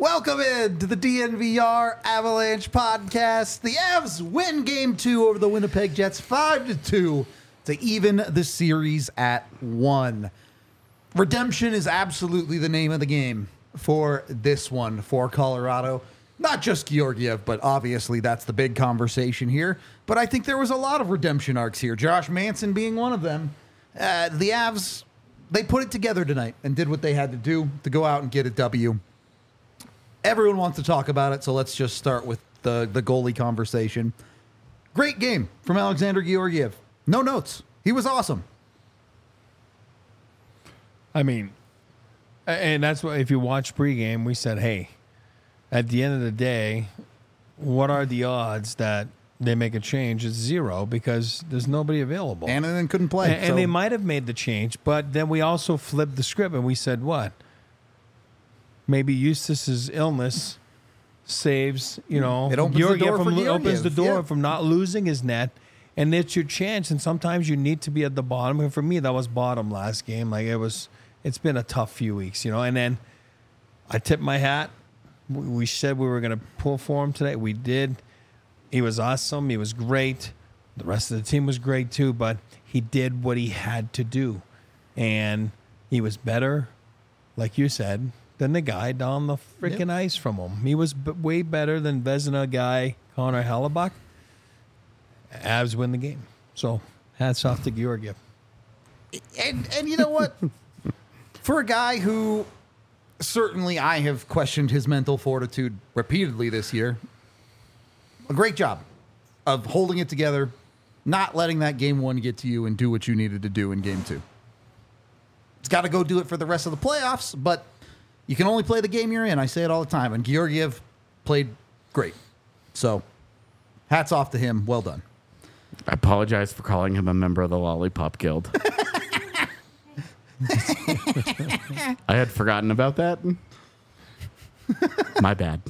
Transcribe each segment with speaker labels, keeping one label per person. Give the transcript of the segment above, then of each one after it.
Speaker 1: Welcome in to the DNVR Avalanche podcast. The Avs win Game 2 over the Winnipeg Jets 5-2 to even the series at 1. Redemption is absolutely the name of the game for this one for Colorado. Not just Georgiev, but obviously that's the big conversation here. But I think there was a lot of redemption arcs here, Josh Manson being one of them. The Avs, they put it together tonight and did what they had to do to go out and get a W. Everyone wants to talk about it, so let's just start with the goalie conversation. Great game from Alexander Georgiev. No notes. He was awesome.
Speaker 2: I mean, and that's why if you watch pregame, we said, hey, at the end of the day, what are the odds that they make a change? It's 0 because there's nobody available.
Speaker 1: Annunen couldn't play.
Speaker 2: And they might have made the change, but then we also flipped the script and we said, what? Maybe Eustace's illness saves,
Speaker 1: it opens the door for Georgiev.
Speaker 2: Opens the door from not losing his net, and it's your chance. And sometimes you need to be at the bottom. And for me, that was bottom last game. Like it's been a tough few weeks, And then I tipped my hat. We said we were going to pull for him today. We did. He was awesome. He was great. The rest of the team was great too. But he did what he had to do, and he was better, like you said, than the guy down the freaking ice from him. He was way better than Vezina guy Connor Hellebuyck. Avs win the game. So hats off to Georgiev.
Speaker 1: And you know what? For a guy who certainly I have questioned his mental fortitude repeatedly this year, a great job of holding it together, not letting that game 1 get to you, and do what you needed to do in game 2. It's got to go do it for the rest of the playoffs, but you can only play the game you're in. I say it all the time. And Georgiev played great. So, hats off to him. Well done.
Speaker 3: I apologize for calling him a member of the Lollipop Guild. I had forgotten about that. My bad.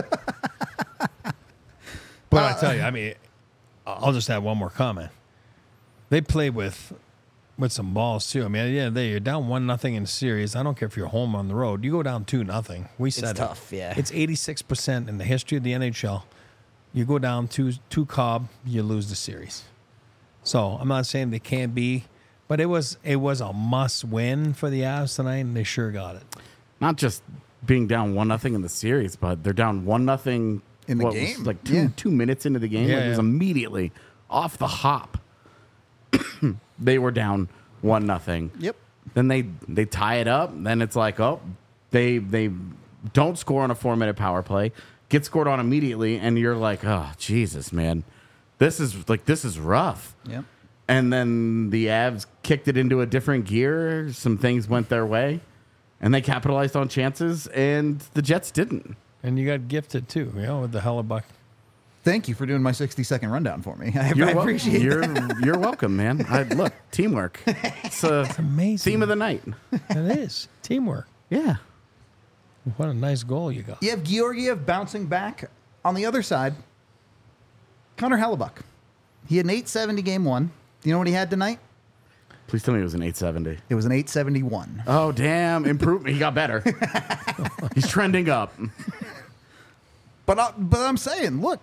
Speaker 2: But I tell you, I mean, I'll just add one more comment. They play with some balls too. I mean, you're down 1-0 in the series. I don't care if you're home on the road. You go down 2-0. We said
Speaker 1: it's tough. Yeah,
Speaker 2: it's 86% in the history of the NHL. You go down two Cobb, you lose the series. So I'm not saying they can't be, but it was a must win for the Avs tonight, and they sure got it.
Speaker 3: Not just being down 1-0 in the series, but they're down 1-0
Speaker 1: in the game.
Speaker 3: Was like 2 minutes into the game.
Speaker 2: Yeah,
Speaker 3: It was immediately off the hop. They were down 1-0.
Speaker 1: Yep.
Speaker 3: Then they tie it up. Then it's like, they don't score on a 4-minute power play, get scored on immediately, and you're like, oh Jesus, man, this is rough.
Speaker 1: Yep.
Speaker 3: And then the Avs kicked it into a different gear. Some things went their way, and they capitalized on chances, and the Jets didn't.
Speaker 2: And you got gifted too, with the Hellebuyck.
Speaker 1: Thank you for doing my 60-second rundown for me. I appreciate it.
Speaker 3: You're welcome, man. Look, teamwork. It's
Speaker 2: amazing.
Speaker 3: Theme of the night.
Speaker 2: It is. Teamwork.
Speaker 3: Yeah.
Speaker 2: What a nice goal you got.
Speaker 1: You have Georgiev bouncing back. On the other side, Connor Hellebuyck. He had an 870 game 1. Do you know what he had tonight?
Speaker 3: Please tell me it was an 870.
Speaker 1: It was an 871.
Speaker 3: Oh, damn. Improvement. He got better. He's trending up.
Speaker 1: But I'm saying, look,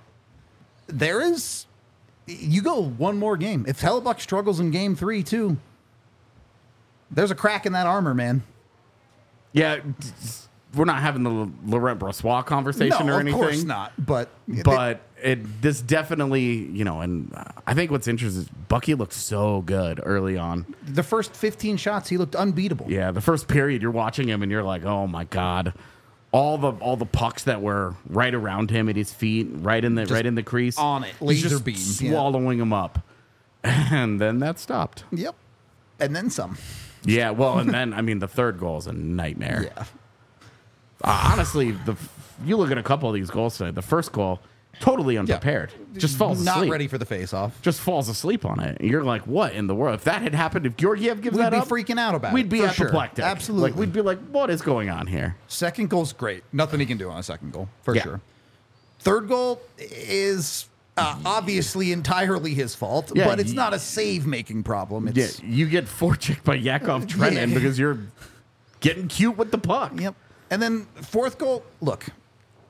Speaker 1: you go one more game. If Hellebuyck struggles in game 3 too, there's a crack in that armor, man.
Speaker 3: Yeah, we're not having the Laurent Brossoit conversation or anything.
Speaker 1: Of course not. But
Speaker 3: this definitely, and I think what's interesting is Bucky looked so good early on.
Speaker 1: The first 15 shots, he looked unbeatable.
Speaker 3: Yeah, the first period, you're watching him and you're like, oh my God. All the pucks that were right around him at his feet, right in the crease,
Speaker 1: on it, laser beams,
Speaker 3: swallowing him up, and then that stopped.
Speaker 1: Yep, and then some.
Speaker 3: Yeah, well, and then the third goal is a nightmare.
Speaker 1: Yeah,
Speaker 3: honestly, you look at a couple of these goals today. The first goal, totally unprepared, just falls asleep,
Speaker 1: not ready for the face-off,
Speaker 3: just falls asleep on it. You're like, what in the world? If that had happened, if Georgiev gives that up,
Speaker 1: we'd be freaking out about it.
Speaker 3: We'd be apoplectic.
Speaker 1: Sure. Absolutely,
Speaker 3: we'd be like, what is going on here?
Speaker 1: Second goal's great. Nothing he can do on a second goal, for sure. Third goal is obviously entirely his fault, but it's not a save-making problem.
Speaker 3: You get forechecked by Yakov Trenin because you're getting cute with the puck.
Speaker 1: Yep. And then fourth goal, look,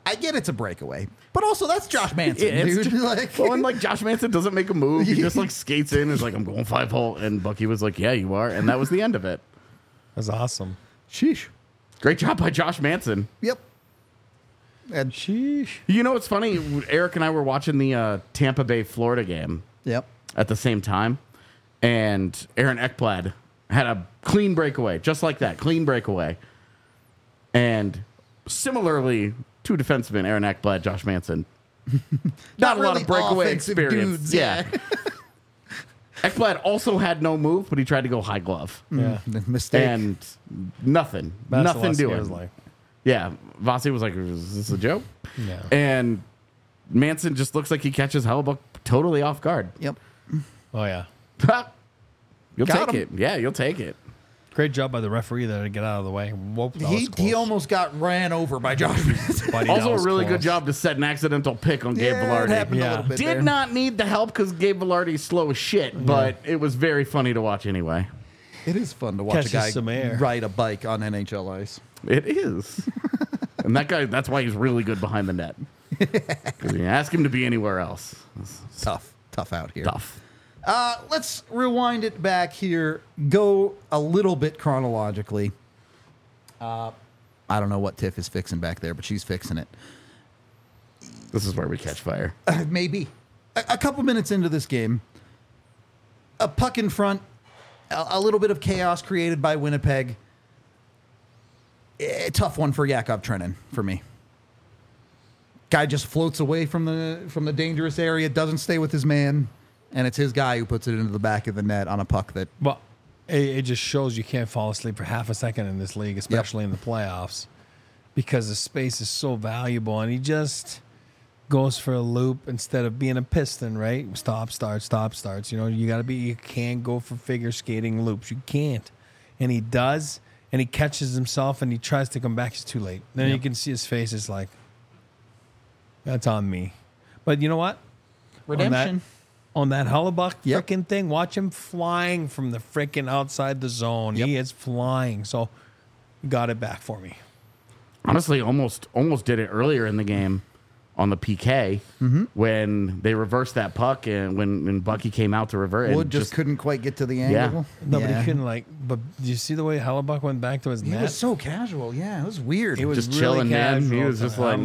Speaker 1: I get it's a breakaway, but also that's Josh Manson,
Speaker 3: It's
Speaker 1: dude. Like,
Speaker 3: well, and like Josh Manson doesn't make a move. He just like skates in. Is like, I'm going 5-hole, and Bucky was like, yeah, you are, and that was the end of it.
Speaker 2: That's awesome.
Speaker 1: sheesh.
Speaker 3: Great job by Josh Manson.
Speaker 1: Yep. And
Speaker 2: Sheesh.
Speaker 3: You know what's funny? Eric and I were watching the Tampa Bay Florida game
Speaker 1: yep.
Speaker 3: at the same time, and Aaron Ekblad had a clean breakaway, just like that, clean breakaway. And similarly, two defensemen, Aaron Ekblad, Josh Manson. Not a lot
Speaker 1: really
Speaker 3: of breakaway
Speaker 1: offensive
Speaker 3: experience.
Speaker 1: dudes,
Speaker 3: yeah. Ekblad also had no move, but he tried to go high glove.
Speaker 2: Yeah.
Speaker 1: Mistake.
Speaker 3: And nothing.
Speaker 2: That's
Speaker 3: nothing
Speaker 2: what
Speaker 3: doing.
Speaker 2: was like.
Speaker 3: Yeah. Vasi was like, is this a joke?
Speaker 2: Yeah.
Speaker 3: And Manson just looks like he catches Hellebuyck totally off guard.
Speaker 1: Yep.
Speaker 2: Oh yeah.
Speaker 3: You'll
Speaker 1: Got
Speaker 3: take
Speaker 1: him.
Speaker 3: it. Yeah, you'll take it.
Speaker 2: Great job by the referee there to get out of the way. Whoop, that was
Speaker 1: He
Speaker 2: close.
Speaker 1: almost got ran over by Josh Manson.
Speaker 2: Buddy, that
Speaker 3: Also,
Speaker 2: was
Speaker 3: a really
Speaker 2: close.
Speaker 3: good job to set an accidental pick on Gabe
Speaker 1: Yeah, it
Speaker 3: Velarde.
Speaker 1: happened
Speaker 2: Yeah.
Speaker 1: a little bit
Speaker 3: Did
Speaker 1: there.
Speaker 3: not need the help because Gabe Velarde's slow as shit, but it was very funny to watch anyway.
Speaker 1: It is fun to watch
Speaker 2: Catches
Speaker 1: a guy
Speaker 2: some air.
Speaker 1: ride a bike on NHL ice.
Speaker 3: It is. And that guy, that's why he's really good behind the net. 'Cause you ask him to be anywhere else. It's
Speaker 1: Tough out here.
Speaker 3: tough.
Speaker 1: Let's rewind it back here. Go a little bit chronologically. I don't know what Tiff is fixing back there, but she's fixing it.
Speaker 3: This is where we catch fire.
Speaker 1: Maybe. A couple minutes into this game, a puck in front, a little bit of chaos created by Winnipeg. A tough one for Yakov Trenin for me. Guy just floats away from the dangerous area, doesn't stay with his man, and it's his guy who puts it into the back of the net on a puck that
Speaker 2: Well, it just shows you can't fall asleep for half a second in this league, especially in the playoffs, because the space is so valuable, and he just goes for a loop instead of being a piston, right? Stop, start, stop, starts. You know, you can't go for figure skating loops. You can't. And he does, and he catches himself, and he tries to come back. It's too late. Then you can see his face is like, that's on me. But you know what?
Speaker 1: redemption.
Speaker 2: On that Hellebuyck
Speaker 1: Yep.
Speaker 2: frickin' thing, watch him flying from the frickin' outside the zone.
Speaker 1: Yep.
Speaker 2: He is flying. So, got it back for me.
Speaker 3: Honestly, almost did it earlier in the game on the PK when they reversed that puck and when Bucky came out to revert it.
Speaker 1: Wood just couldn't quite get to the angle.
Speaker 2: Nobody
Speaker 1: Yeah.
Speaker 2: couldn't but do you see the way Hellebuyck went back to his
Speaker 1: He
Speaker 2: net?
Speaker 1: was so casual. Yeah, it was weird.
Speaker 2: He was
Speaker 3: just
Speaker 2: really
Speaker 3: chilling, man. He
Speaker 2: casual.
Speaker 3: was just like,
Speaker 2: I'm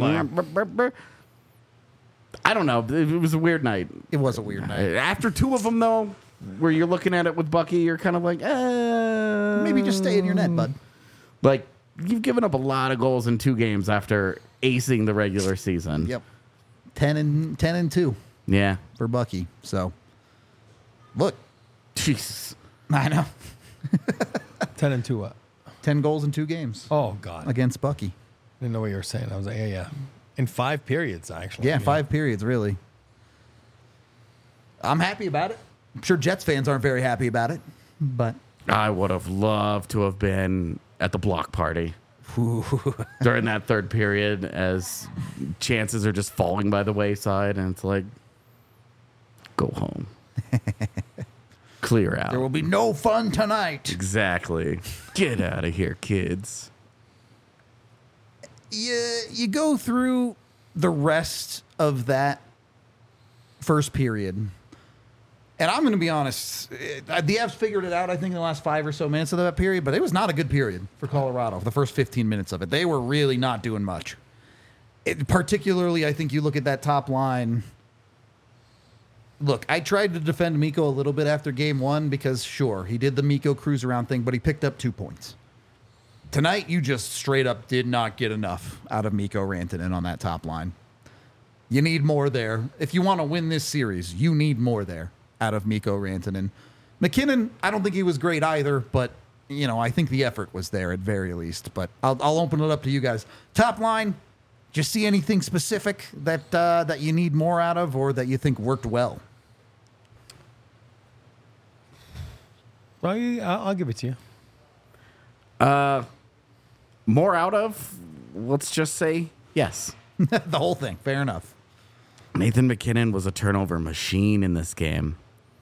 Speaker 3: I don't know. It was a weird night.
Speaker 1: It was a weird night.
Speaker 3: After two of them, though, where you're looking at it with Bucky, you're kind of like,
Speaker 1: Maybe just stay in your net, bud.
Speaker 3: Like, you've given up a lot of goals in 2 games after acing the regular season.
Speaker 1: Yep. 10 and 2
Speaker 3: Yeah.
Speaker 1: for Bucky. So, look,
Speaker 3: Jesus.
Speaker 1: I know.
Speaker 2: 10 and 2 what?
Speaker 1: 10 goals in 2 games
Speaker 2: Oh, God.
Speaker 1: against Bucky.
Speaker 2: Didn't know what you were saying. I was like, yeah. In 5 periods, actually.
Speaker 1: Yeah, 5 periods, really. I'm happy about it. I'm sure Jets fans aren't very happy about it, but
Speaker 3: I would have loved to have been at the block party during that third period as chances are just falling by the wayside, and it's like, go home. Clear out.
Speaker 1: there will be no fun tonight.
Speaker 3: Exactly. Get out of here, kids.
Speaker 1: You go through the rest of that first period, and I'm going to be honest, the Avs figured it out, I think, in the last 5 or so minutes of that period, but it was not a good period for Colorado, the first 15 minutes of it. They were really not doing much. Particularly, I think you look at that top line. Look, I tried to defend Mikko a little bit after game 1 because, sure, he did the Mikko cruise around thing, but he picked up 2 points. Tonight, you just straight up did not get enough out of Mikko Rantanen on that top line. You need more there. If you want to win this series, you need more there out of Mikko Rantanen. McKinnon, I don't think he was great either, but, I think the effort was there at very least. But I'll open it up to you guys. Top line, do you see anything specific that you need more out of or that you think worked well?
Speaker 2: Well, I'll give it to you.
Speaker 3: More out of, let's just say, yes.
Speaker 1: The whole thing. Fair enough.
Speaker 3: Nathan McKinnon was a turnover machine in this game.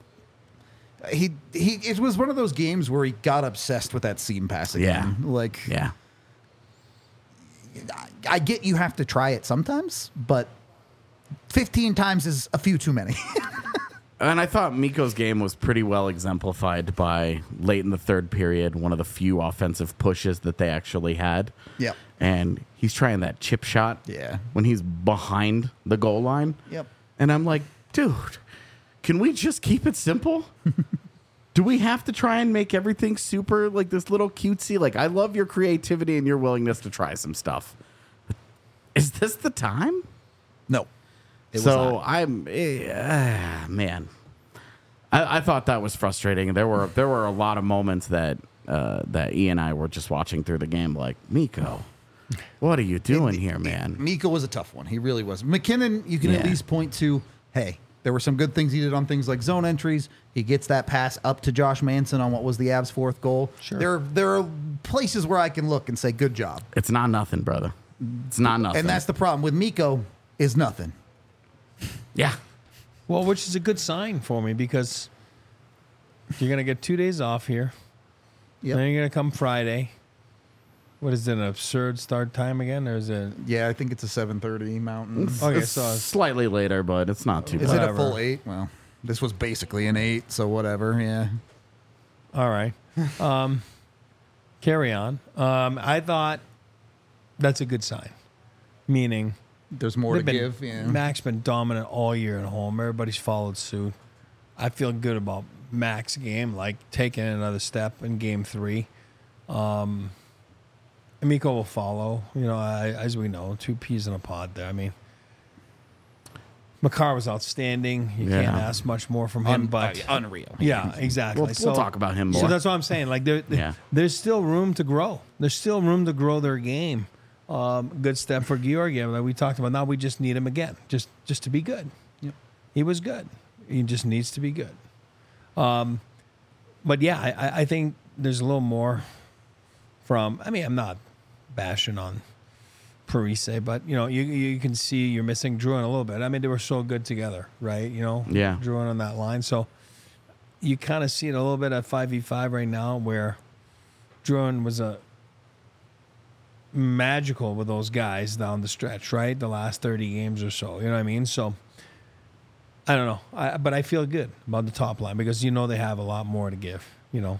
Speaker 1: It was one of those games where he got obsessed with that seam passing.
Speaker 3: Yeah.
Speaker 1: Like,
Speaker 3: Yeah.
Speaker 1: I get you have to try it sometimes, but 15 times is a few too many.
Speaker 3: And I thought Mikko's game was pretty well exemplified by late in the third period, one of the few offensive pushes that they actually had.
Speaker 1: Yep.
Speaker 3: And he's trying that chip shot
Speaker 1: Yeah.
Speaker 3: when he's behind the goal line.
Speaker 1: Yep.
Speaker 3: And I'm like, dude, can we just keep it simple? Do we have to try and make everything super like this little cutesy? Like, I love your creativity and your willingness to try some stuff. Is this the time?
Speaker 1: No. It was
Speaker 3: So
Speaker 1: not.
Speaker 3: I'm man. I thought that was frustrating. There were a lot of moments that that E and I were just watching through the game, like, Mikko, what are you doing here, man?
Speaker 1: Mikko was a tough one. He really was. McKinnon, you can at
Speaker 3: Yeah.
Speaker 1: least point to, hey, there were some good things he did on things like zone entries. He gets that pass up to Josh Manson on what was the Avs' fourth goal.
Speaker 2: Sure.
Speaker 1: There are places where I can look and say, good job.
Speaker 3: It's not nothing, brother. It's not nothing.
Speaker 1: And that's the problem with Mikko is nothing.
Speaker 3: yeah.
Speaker 2: Well, which is a good sign for me because you're going to get 2 days off here.
Speaker 1: Yep.
Speaker 2: Then you're going to come Friday. What is it, an absurd start time again? Or is it?
Speaker 1: Yeah, I think it's a 7:30 Mountain.
Speaker 2: Okay,
Speaker 3: It's
Speaker 2: so it's-
Speaker 3: slightly later, but it's not too
Speaker 1: Is
Speaker 3: bad.
Speaker 1: it a
Speaker 2: whatever.
Speaker 1: full 8? Well, this was basically an 8, so whatever, yeah.
Speaker 2: All right. Carry on. I thought that's a good sign, meaning
Speaker 1: There's more to
Speaker 2: they've been,
Speaker 1: give. Yeah.
Speaker 2: Mac's been dominant all year at home. Everybody's followed suit. I feel good about Mac's game, like taking another step in game 3. Mikko will follow, as we know, 2 peas in a pod there. I mean, Makar was outstanding. You
Speaker 3: Yeah.
Speaker 2: can't ask much more from him, but
Speaker 1: unreal.
Speaker 2: yeah, exactly.
Speaker 3: We'll talk about him more.
Speaker 2: So that's what I'm saying. Like,
Speaker 3: Yeah.
Speaker 2: there's still room to grow. There's still room to grow their game. Good step for Georgiev that we talked about. Now we just need him again, just to be good.
Speaker 1: Yep.
Speaker 2: He was good. He just needs to be good. But yeah, I think there's a little more from. I mean, I'm not bashing on Parise, but you can see you're missing Druin a little bit. I mean, they were so good together, right?
Speaker 3: Yeah.
Speaker 2: Druin on that line. So you kind of see it a little bit at 5v5 right now, where Druin was a magical with those guys down the stretch, right? The last 30 games or so. You know what I mean? So I don't know, but I feel good about the top line because they have a lot more to give.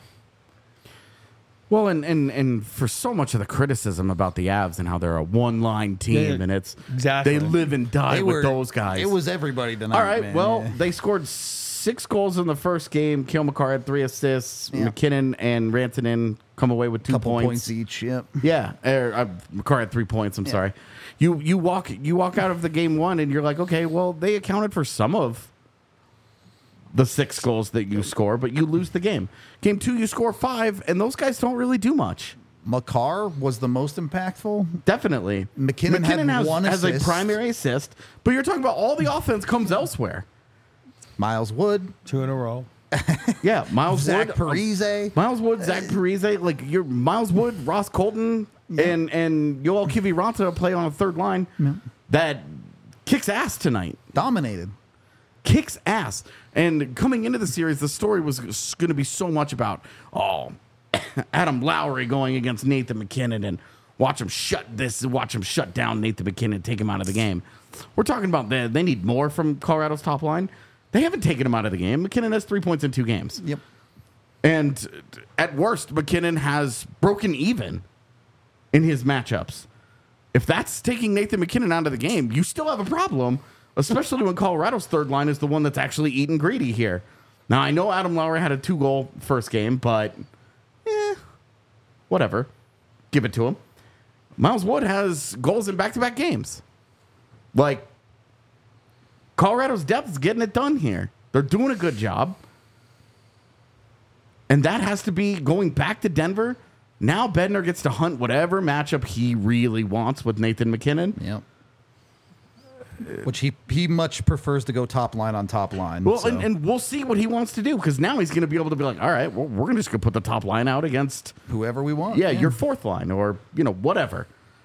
Speaker 3: Well, and for so much of the criticism about the Avs and how they're a one-line team,
Speaker 2: Yeah,
Speaker 3: and it's
Speaker 2: exactly.
Speaker 3: they live and die with those guys.
Speaker 1: It was everybody tonight.
Speaker 3: all right.
Speaker 1: man.
Speaker 3: Well,
Speaker 1: Yeah.
Speaker 3: they scored 6 goals in the first game. Kale McCarr had 3 assists.
Speaker 1: Yeah.
Speaker 3: McKinnon and Rantanen come away with 2
Speaker 1: couple
Speaker 3: points.
Speaker 1: points each. Yep.
Speaker 3: Yeah, McCarr had 3 points. I'm sorry. You walk out of the game 1 and you're like, okay, well, they accounted for some of the 6 goals that you score, but you lose the game. Game 2, you score 5, and those guys don't really do much.
Speaker 1: Makar was the most impactful.
Speaker 3: Definitely,
Speaker 1: McKinnon had
Speaker 3: has,
Speaker 1: one
Speaker 3: has a
Speaker 1: assist.
Speaker 3: primary assist, but you're talking about all the offense comes elsewhere.
Speaker 1: Miles Wood,
Speaker 2: 2 in a row.
Speaker 3: Yeah, Miles
Speaker 1: Zach
Speaker 3: Wood,
Speaker 1: Parise.
Speaker 3: Miles Wood, Zach Parise, like you're Miles Wood, Ross Colton, and Yoel Kiviranta play on a third line that kicks ass tonight.
Speaker 1: Dominated.
Speaker 3: Kicks ass. And coming into the series, the story was going to be so much about Adam Lowry going against Nathan McKinnon and watch him shut down Nathan McKinnon, take him out of the game. We're talking about they need more from Colorado's top line. They haven't taken him out of the game. McKinnon has 3 points in 2 games.
Speaker 1: Yep.
Speaker 3: And at worst, McKinnon has broken even in his matchups. If that's taking Nathan McKinnon out of the game, you still have a problem, especially when Colorado's third line is the one that's actually eating greedy here. Now, I know Adam Lowry had a 2-goal first game, but whatever. Give it to him. Miles Wood has goals in back-to-back games. Like, Colorado's depth is getting it done here. They're doing a good job. And that has to be going back to Denver. Now Bednar gets to hunt whatever matchup he really wants with Nathan McKinnon.
Speaker 1: Yep. Which he much prefers to go top line on top line.
Speaker 3: Well,
Speaker 1: so.
Speaker 3: and we'll see what he wants to do because now he's going to be able to be like, all right, well, we're just going to put the top line out against
Speaker 1: whoever we want.
Speaker 3: your fourth line or, whatever.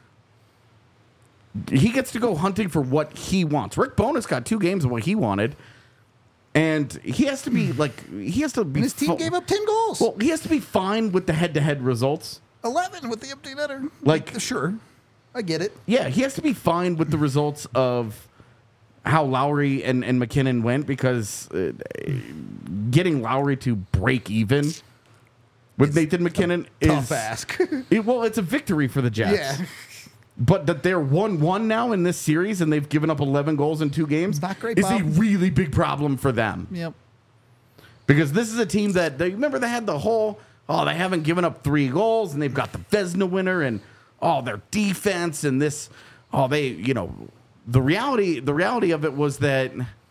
Speaker 3: He gets to go hunting for what he wants. Rick Bowness got 2 games of what he wanted. And he has to be
Speaker 1: And his team gave up 10 goals.
Speaker 3: Well, he has to be fine with the head-to-head results.
Speaker 1: 11 with the empty netter.
Speaker 3: Like-
Speaker 1: sure. I get it.
Speaker 3: Yeah, he has to be fine with the results of how Lowry and McKinnon went, because getting Lowry to break even with Nathan McKinnon is
Speaker 1: Tough ask.
Speaker 3: it's a victory for the Jets.
Speaker 1: Yeah.
Speaker 3: But that they're 1-1 now in this series and they've given up 11 goals in 2 games
Speaker 1: Not great,
Speaker 3: is
Speaker 1: Bob.
Speaker 3: a really big problem for them.
Speaker 1: Yep.
Speaker 3: Because this is a team that they had the whole, they haven't given up 3 goals and they've got the Vezina winner and their defense and this, the reality of it was that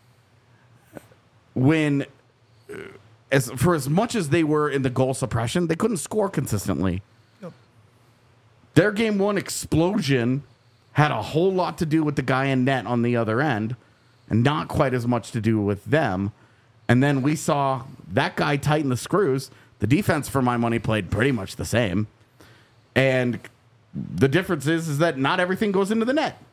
Speaker 3: when as much as they were in the goal suppression, they couldn't score consistently.
Speaker 1: Yep.
Speaker 3: Their game 1 explosion had a whole lot to do with the guy in net on the other end and not quite as much to do with them. And then we saw that guy tighten the screws. The defense, for my money, played pretty much the same. And the difference is that not everything goes into the net.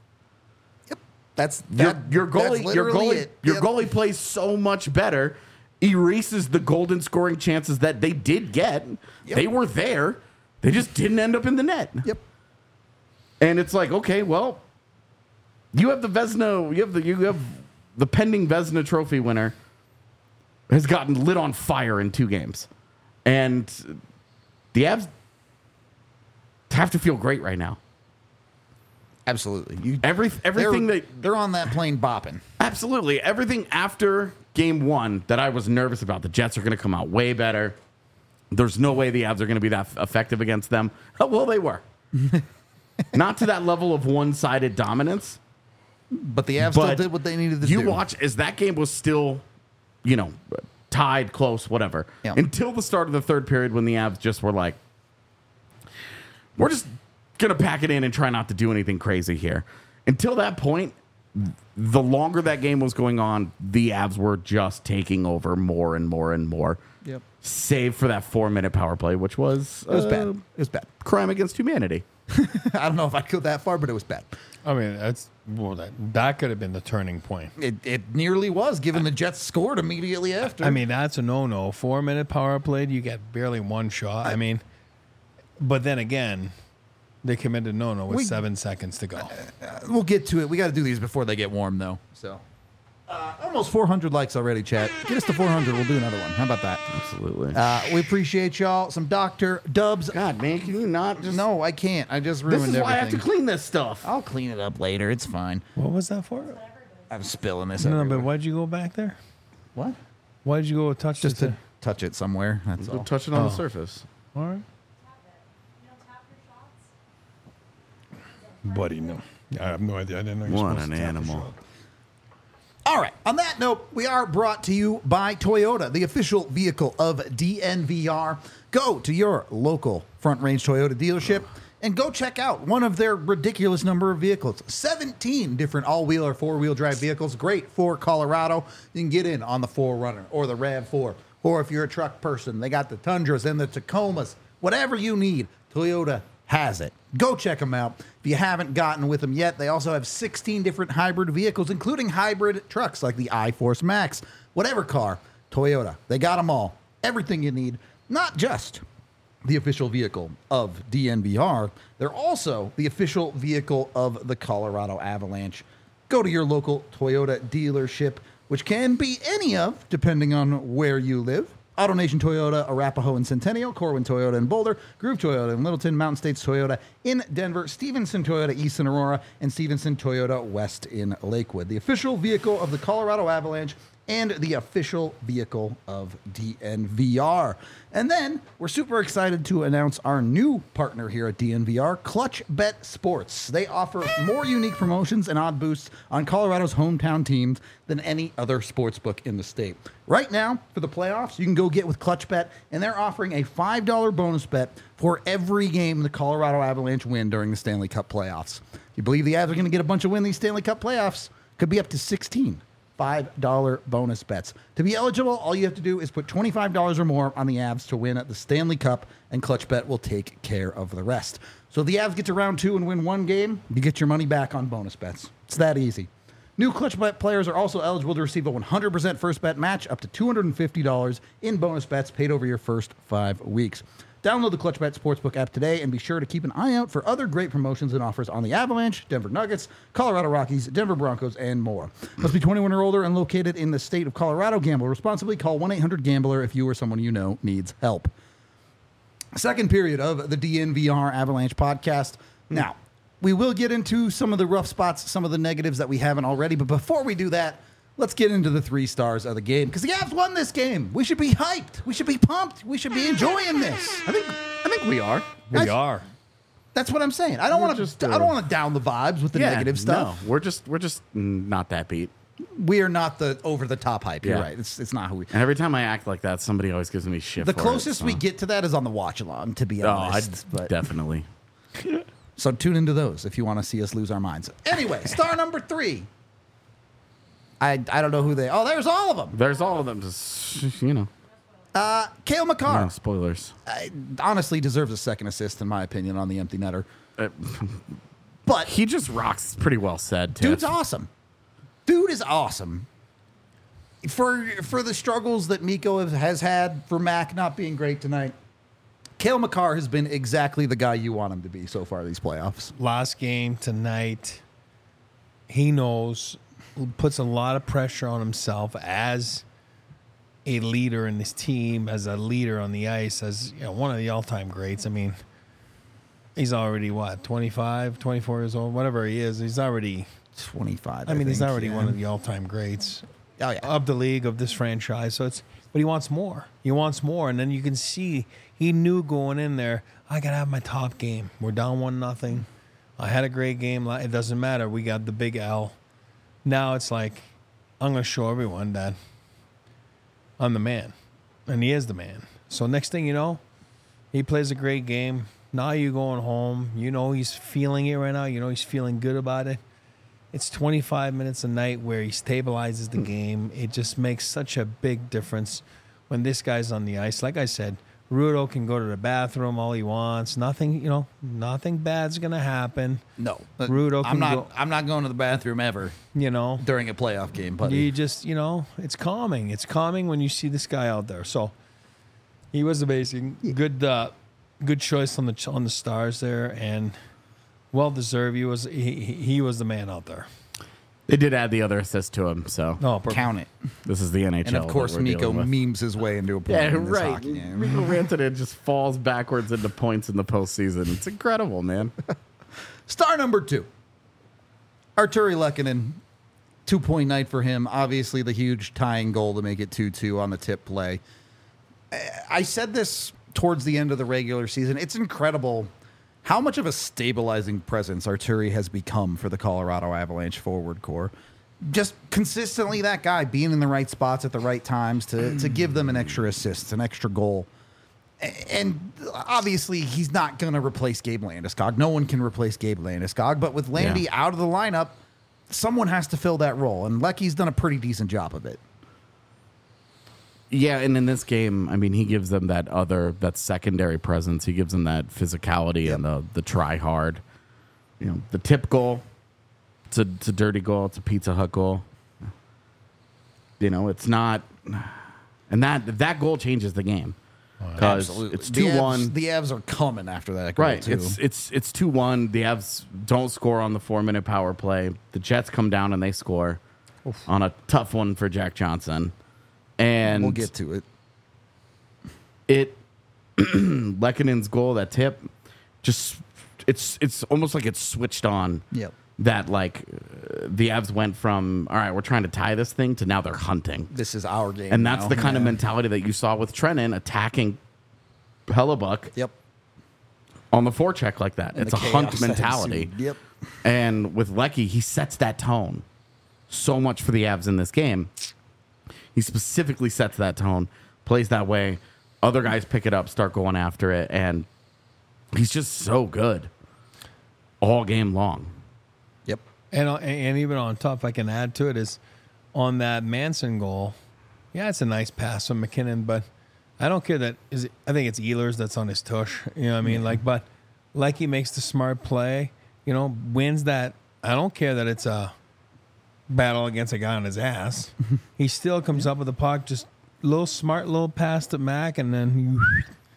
Speaker 3: Your goalie plays so much better, erases the golden scoring chances that they did get.
Speaker 1: Yep.
Speaker 3: They were there. They just didn't end up in the net.
Speaker 1: Yep.
Speaker 3: And it's like, okay, well, you have the Vezina, you have the pending Vezina trophy winner has gotten lit on fire in 2 games. And the Avs have to feel great right now.
Speaker 1: Absolutely.
Speaker 3: Everything
Speaker 1: they're on that plane bopping.
Speaker 3: Absolutely. Everything after game 1 that I was nervous about. The Jets are going to come out way better. There's no way the Avs are going to be that effective against them. Well, they were. Not to that level of one-sided dominance.
Speaker 1: But the Avs still did what they needed to do.
Speaker 3: You watch as that game was still, tied, close, whatever.
Speaker 1: Yeah.
Speaker 3: Until the start of the 3rd period when the Avs just were like, we're just going to pack it in and try not to do anything crazy here. Until that point, the longer that game was going on, the Avs were just taking over more and more and more.
Speaker 1: Yep.
Speaker 3: Save for that 4-minute power play, which was...
Speaker 1: It was bad. It was bad.
Speaker 3: Crime against humanity.
Speaker 1: I don't know if I'd go that far, but it was bad.
Speaker 2: I mean, that could have been the turning point.
Speaker 1: It nearly was, given the Jets scored immediately after.
Speaker 2: I mean, that's a no-no. 4-minute power play, you get barely 1 shot. I mean, but then again, they committed no-no with 7 seconds to go.
Speaker 1: We'll get to it. We got to do these before they get warm, though. So, almost 400 likes already, chat. Get us to 400. We'll do another one. How about that?
Speaker 3: Absolutely.
Speaker 1: We appreciate y'all. Some Dr. Dubs.
Speaker 3: God, man, can you not just...
Speaker 1: No, I can't. I just ruined
Speaker 3: This is
Speaker 1: everything.
Speaker 3: why I have to clean this stuff.
Speaker 1: I'll clean it up later. It's fine.
Speaker 2: What was that for?
Speaker 1: I'm spilling this
Speaker 2: No,
Speaker 1: everywhere.
Speaker 2: but why'd you go back there?
Speaker 1: What?
Speaker 2: Why'd you go touch
Speaker 1: Just
Speaker 2: this?
Speaker 1: to touch it somewhere. That's
Speaker 3: Go
Speaker 1: all.
Speaker 3: touch it on the surface.
Speaker 2: All right. Buddy, no. I have no idea. I didn't know you were
Speaker 3: What
Speaker 2: supposed
Speaker 3: an
Speaker 2: to tap
Speaker 3: animal.
Speaker 2: your shot.
Speaker 1: All right. On that note, we are brought to you by Toyota, the official vehicle of DNVR. Go to your local Front Range Toyota dealership and go check out one of their ridiculous number of vehicles. 17 different all-wheel or four-wheel drive vehicles. Great for Colorado. You can get in on the 4Runner or the RAV4. Or if you're a truck person, they got the Tundras and the Tacomas. Whatever you need, Toyota has it. Go check them out. If you haven't gotten with them yet, they also have 16 different hybrid vehicles, including hybrid trucks like the iForce Max. Whatever car, Toyota. They got them all. Everything you need, not just the official vehicle of DNVR. They're also the official vehicle of the Colorado Avalanche. Go to your local Toyota dealership, which can be any of, depending on where you live. AutoNation Toyota, Arapahoe and Centennial, Corwin Toyota in Boulder, Groove Toyota in Littleton, Mountain States Toyota in Denver, Stevenson Toyota East in Aurora, and Stevenson Toyota West in Lakewood. The official vehicle of the Colorado Avalanche and the official vehicle of DNVR. And then we're super excited to announce our new partner here at DNVR, Clutch Bet Sports. They offer more unique promotions and odd boosts on Colorado's hometown teams than any other sportsbook in the state. Right now, for the playoffs, you can go get with Clutch Bet, and they're offering a $5 bonus bet for every game the Colorado Avalanche win during the Stanley Cup playoffs. If you believe the Avs are going to get a bunch of wins these Stanley Cup playoffs, could be up to 16 $5 bonus bets. To be eligible, all you have to do is put $25 or more on the Avs to win the Stanley Cup, and Clutch Bet will take care of the rest. So if the Avs get to round 2 and win one game, you get your money back on bonus bets. It's that easy. New Clutch Bet players are also eligible to receive a 100% first bet match up to $250 in bonus bets paid over your first 5 weeks. Download the ClutchBet Sportsbook app today and be sure to keep an eye out for other great promotions and offers on the Avalanche, Denver Nuggets, Colorado Rockies, Denver Broncos, and more. Must be 21 or older and located in the state of Colorado. Gamble responsibly. Call 1-800-GAMBLER if you or someone you know needs help. Second period of the DNVR Avalanche podcast. Now, we will get into some of the rough spots, some of the negatives that we haven't already, but before we do that, let's get into the 3 stars of the game, because the Avs won this game. We should be hyped. We should be pumped. We should be enjoying this.
Speaker 3: I think we are.
Speaker 2: We are.
Speaker 1: That's what I'm saying. I don't want to. I don't want to down the vibes with the negative stuff.
Speaker 3: No, we're just not that beat.
Speaker 1: We are not the over the top hype. You're
Speaker 3: Yeah.
Speaker 1: right. It's not who we.
Speaker 3: And every time I act like that, somebody always gives me shit.
Speaker 1: The
Speaker 3: for
Speaker 1: closest
Speaker 3: it,
Speaker 1: we get to that is on the watch along, to be honest. But
Speaker 3: definitely.
Speaker 1: so tune into those if you want to see us lose our minds. Anyway, star number 3. I don't know who they. Oh, there's all of them.
Speaker 3: There's all of them. Just
Speaker 1: Cale Makar.
Speaker 3: no spoilers.
Speaker 1: Honestly deserves a second assist, in my opinion, on the empty netter. But
Speaker 3: He just rocks. Pretty well said, too.
Speaker 1: dude's awesome. Dude is awesome. For the struggles that Mikko has had, for Mac not being great tonight, Cale Makar has been exactly the guy you want him to be so far these playoffs.
Speaker 2: Last game tonight, he knows, puts a lot of pressure on himself as a leader in this team, as a leader on the ice, as one of the all-time greats. I mean, he's already, 25, 24 years old, whatever he is. He's already
Speaker 1: 25.
Speaker 2: I mean, he's
Speaker 1: think,
Speaker 2: already
Speaker 1: yeah.
Speaker 2: one of the all-time greats
Speaker 1: Oh, yeah.
Speaker 2: of the league, of this franchise. So but he wants more. He wants more. And then you can see he knew going in there, I got to have my top game. We're down 1-0. I had a great game. It doesn't matter. We got the big L. Now it's like, I'm going to show everyone that I'm the man. And he is the man. So next thing you know, he plays a great game. Now you're going home. You know he's feeling it right now. You know he's feeling good about it. It's 25 minutes a night where he stabilizes the game. It just makes such a big difference when this guy's on the ice. Like I said, Rudo can go to the bathroom all he wants. Nothing bad's gonna happen.
Speaker 1: No.
Speaker 2: Rudo can
Speaker 1: I'm not going to the bathroom ever during a playoff game, buddy.
Speaker 2: You just, it's calming. It's calming when you see this guy out there. So he was amazing. Good choice on the stars there, and well deserved. He was the man out there.
Speaker 3: They did add the other assist to him, so
Speaker 2: No, perfect.
Speaker 1: Count it.
Speaker 3: this is the NHL.
Speaker 1: And of course,
Speaker 3: that we're
Speaker 1: Mikko
Speaker 3: dealing with.
Speaker 1: memes his way into a point
Speaker 3: Yeah,
Speaker 1: in this
Speaker 3: right.
Speaker 1: hockey game.
Speaker 3: Mikko Rantanen just falls backwards into points in the postseason. It's incredible, man.
Speaker 1: Star number 2. Arturi Lehkonen. 2-point night for him. Obviously, the huge tying goal to make it 2-2 on the tip play. I said this towards the end of the regular season. It's incredible how much of a stabilizing presence Arturi has become for the Colorado Avalanche forward core. Just consistently that guy being in the right spots at the right times to give them an extra assist, an extra goal. And obviously, he's not going to replace Gabe Landeskog. No one can replace Gabe Landeskog. But with Landy out of the lineup, someone has to fill that role. And Lecky's done a pretty decent job of it.
Speaker 3: Yeah, and in this game, I mean, he gives them that secondary presence. He gives them that physicality and the try hard. The tip goal, it's a dirty goal. It's a Pizza Hut goal. It's not, and that goal changes the game because it's 2-1.
Speaker 1: The Avs are coming after that goal,
Speaker 3: Right,
Speaker 1: too.
Speaker 3: it's 2-1. The Avs don't score on the 4-minute power play. The Jets come down and they score on a tough one for Jack Johnson. And
Speaker 1: We'll get to it.
Speaker 3: Lehkonen's goal, that tip, just it's almost like it's switched on.
Speaker 1: Yep.
Speaker 3: That the Avs went from, all right, we're trying to tie this thing, to now they're hunting.
Speaker 1: This is our game.
Speaker 3: And that's
Speaker 1: now.
Speaker 3: the kind of mentality that you saw with Trennan attacking Hellebuck
Speaker 1: Yep.
Speaker 3: on the forecheck like that.
Speaker 1: And
Speaker 3: It's
Speaker 1: the
Speaker 3: a
Speaker 1: chaos
Speaker 3: hunt
Speaker 1: that
Speaker 3: mentality.
Speaker 1: ensued. Yep.
Speaker 3: And with Lecky, he sets that tone so much for the Avs in this game. He specifically sets that tone, plays that way. Other guys pick it up, start going after it, and he's just so good all game long.
Speaker 1: Yep.
Speaker 2: And even on top, if I can add to it, is on that Manson goal. Yeah, it's a nice pass from McKinnon, but I don't care I think it's Ehlers that's on his tush. You know what I mean? But he makes the smart play, wins that. I don't care that it's a battle against a guy on his ass. He still comes up with the puck, just smart little pass to Mac, and then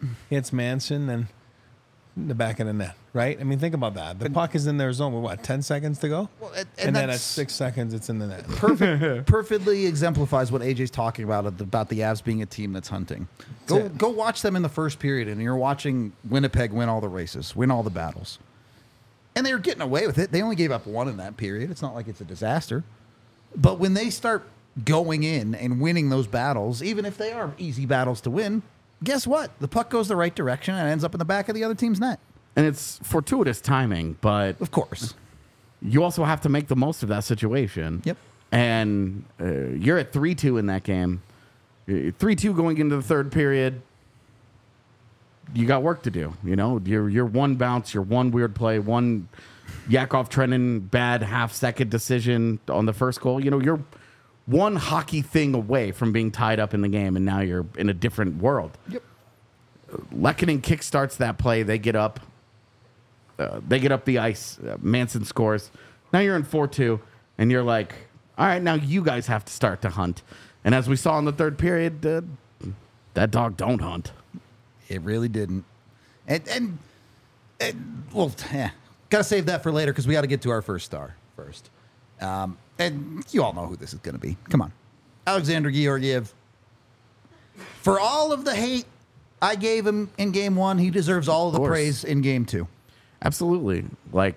Speaker 2: hits Manson, and the back of the net, right? I mean, think about that. The puck is in their zone with what, 10 seconds to go?
Speaker 1: Well,
Speaker 2: and then at
Speaker 1: that's
Speaker 2: 6 seconds, it's in the net.
Speaker 1: perfectly exemplifies what AJ's talking about the Avs being a team that's hunting. Go watch them in the first period, and you're watching Winnipeg win all the races, win all the battles. And they were getting away with it. They only gave up one in that period. It's not like it's a disaster. But when they start going in and winning those battles, even if they are easy battles to win, guess what? The puck goes the right direction and ends up in the back of the other team's net.
Speaker 3: And it's fortuitous timing, but
Speaker 1: Of course.
Speaker 3: you also have to make the most of that situation.
Speaker 1: Yep.
Speaker 3: And you're at 3-2 in that game. 3-2 going into the third period. You got work to do. You know, you're one bounce, you're one weird play, one Yakov Trenin bad half-second decision on the first goal. You know, you're one hockey thing away from being tied up in the game, and now you're in a different world.
Speaker 1: Yep.
Speaker 3: Lehkonen kickstarts that play. They get up. They get up the ice. Manson scores. Now you're in 4-2, and you're like, all right, now you guys have to start to hunt. And as we saw in the third period, that dog don't hunt.
Speaker 1: It really didn't. And got to save that for later because we got to get to our first star first. And you all know who this is going to be. Come on. Alexander Georgiev. For all of the hate I gave him in game one, he deserves all of the praise in game two.
Speaker 3: Absolutely. Like,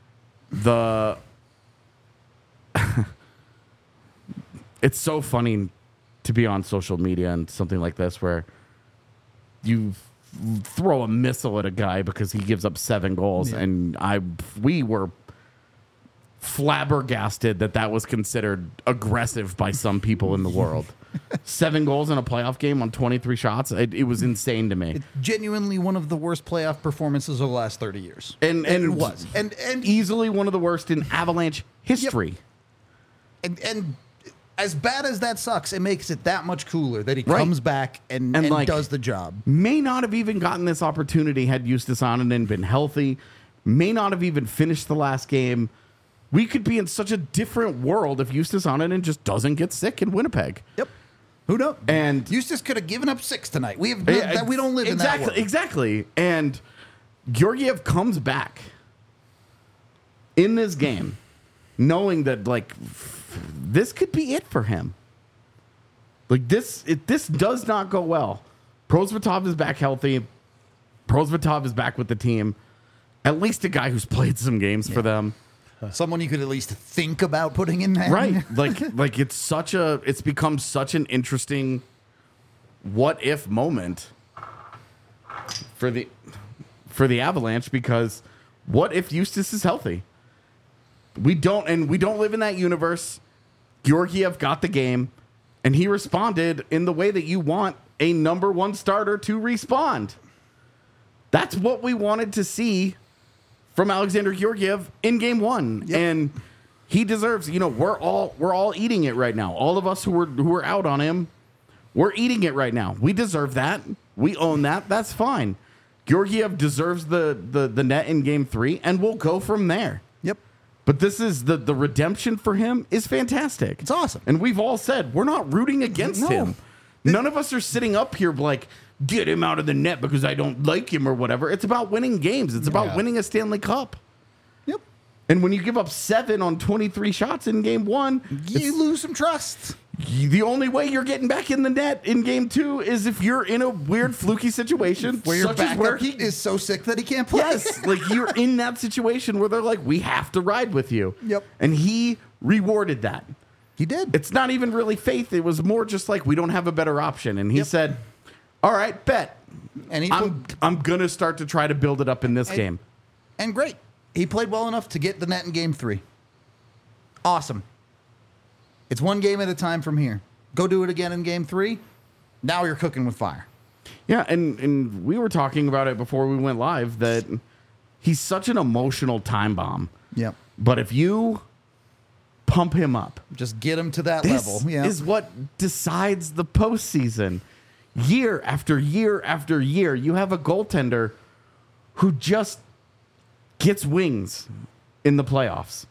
Speaker 3: it's so funny to be on social media and something like this where you throw a missile at a guy because he gives up 7 goals, and we were flabbergasted that was considered aggressive by some people in the world. 7 goals in a playoff game on 23 shots. It was insane to me.
Speaker 1: It's genuinely one of the worst playoff performances of the last 30 years.
Speaker 3: And
Speaker 1: it was. And
Speaker 3: easily one of the worst in Avalanche history.
Speaker 1: Yep. And as bad as that sucks, it makes it that much cooler that he
Speaker 3: Right.
Speaker 1: comes back and
Speaker 3: like,
Speaker 1: does the job.
Speaker 3: May not have even gotten this opportunity had Justus Annunen been healthy. May not have even finished the last game. We could be in such a different world if Justus Annunen just doesn't get sick in Winnipeg.
Speaker 1: Yep. Who knows?
Speaker 3: And
Speaker 1: Justus could have given up 6 tonight. We have that. We don't live in that world.
Speaker 3: Exactly. And Georgiev comes back in this game, knowing that like this could be it for him. Like this does not go well. Prosvetov is back healthy. Prosvetov is back with the team. At least a guy who's played some games for them.
Speaker 1: Someone you could at least think about putting in there.
Speaker 3: Right. Like it's become such an interesting what if moment for the Avalanche, because what if Justus is healthy? We don't live in that universe. Georgiev got the game, and he responded in the way that you want a number 1 starter to respond. That's what we wanted to see from Alexander Georgiev in game 1.
Speaker 1: Yep.
Speaker 3: And he deserves, we're all eating it right now. All of us who were out on him, we're eating it right now. We deserve that. We own that. That's fine. Georgiev deserves the net in game 3, and we'll go from there.
Speaker 1: Yep.
Speaker 3: But this is the redemption for him is fantastic.
Speaker 1: It's awesome.
Speaker 3: And we've all said we're not rooting against him. None of us are sitting up here like, get him out of the net because I don't like him or whatever. It's about winning games. It's about winning a Stanley Cup.
Speaker 1: Yep.
Speaker 3: And when you give up 7 on 23 shots in game 1,
Speaker 1: You lose some trust.
Speaker 3: the only way you're getting back in the net in game 2 is if you're in a weird fluky situation
Speaker 1: Where your
Speaker 3: such as
Speaker 1: backup
Speaker 3: where he
Speaker 1: is so sick that he can't play.
Speaker 3: Yes, like you're in that situation where they're like, we have to ride with you.
Speaker 1: Yep.
Speaker 3: And he rewarded that.
Speaker 1: He did.
Speaker 3: It's not even really faith. It was more just like, we don't have a better option. And he said, all right, bet.
Speaker 1: And
Speaker 3: I'm going to start to try to build it up in this game.
Speaker 1: And great. He played well enough to get the net in game 3. Awesome. It's one game at a time from here. Go do it again in game 3. Now you're cooking with fire.
Speaker 3: Yeah, and we were talking about it before we went live that he's such an emotional time bomb.
Speaker 1: Yep.
Speaker 3: But if you pump him up,
Speaker 1: Just get him to that
Speaker 3: this
Speaker 1: level. Yeah.
Speaker 3: is what decides the postseason. Year after year after year, you have a goaltender who just gets wings in the playoffs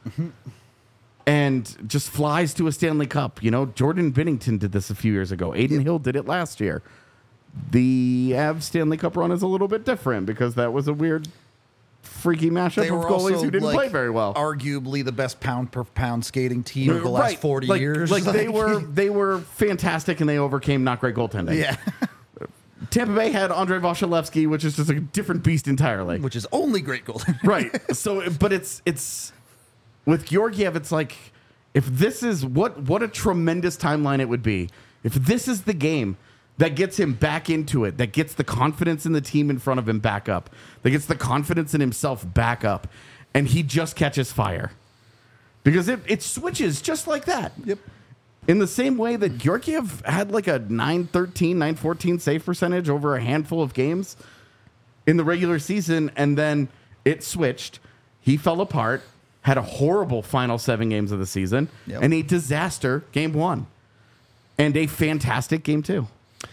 Speaker 3: and just flies to a Stanley Cup. Jordan Binnington did this a few years ago. Aiden Hill did it last year. The Avs Stanley Cup run is a little bit different because that was a weird, freaky mashup
Speaker 1: They
Speaker 3: of
Speaker 1: were
Speaker 3: goalies
Speaker 1: also,
Speaker 3: who didn't
Speaker 1: like,
Speaker 3: play very well.
Speaker 1: Arguably the best pound per pound skating team of the last 40
Speaker 3: like,
Speaker 1: years.
Speaker 3: Like they were fantastic and they overcame not great goaltending.
Speaker 1: Yeah.
Speaker 3: Tampa Bay had Andrei Vasilevsky, which is just a different beast entirely.
Speaker 1: Which is only great goaltending.
Speaker 3: Right. So, but it's with Georgiev, it's like if this is what a tremendous timeline it would be. If this is the game that gets him back into it, that gets the confidence in the team in front of him back up, that gets the confidence in himself back up, and he just catches fire. Because it switches just like that.
Speaker 1: Yep.
Speaker 3: In the same way that Georgiev had like a 913, 914 save percentage over a handful of games in the regular season, and then it switched. He fell apart, had a horrible final 7 games of the season,
Speaker 1: Yep.
Speaker 3: and a disaster game 1, and a fantastic game 2.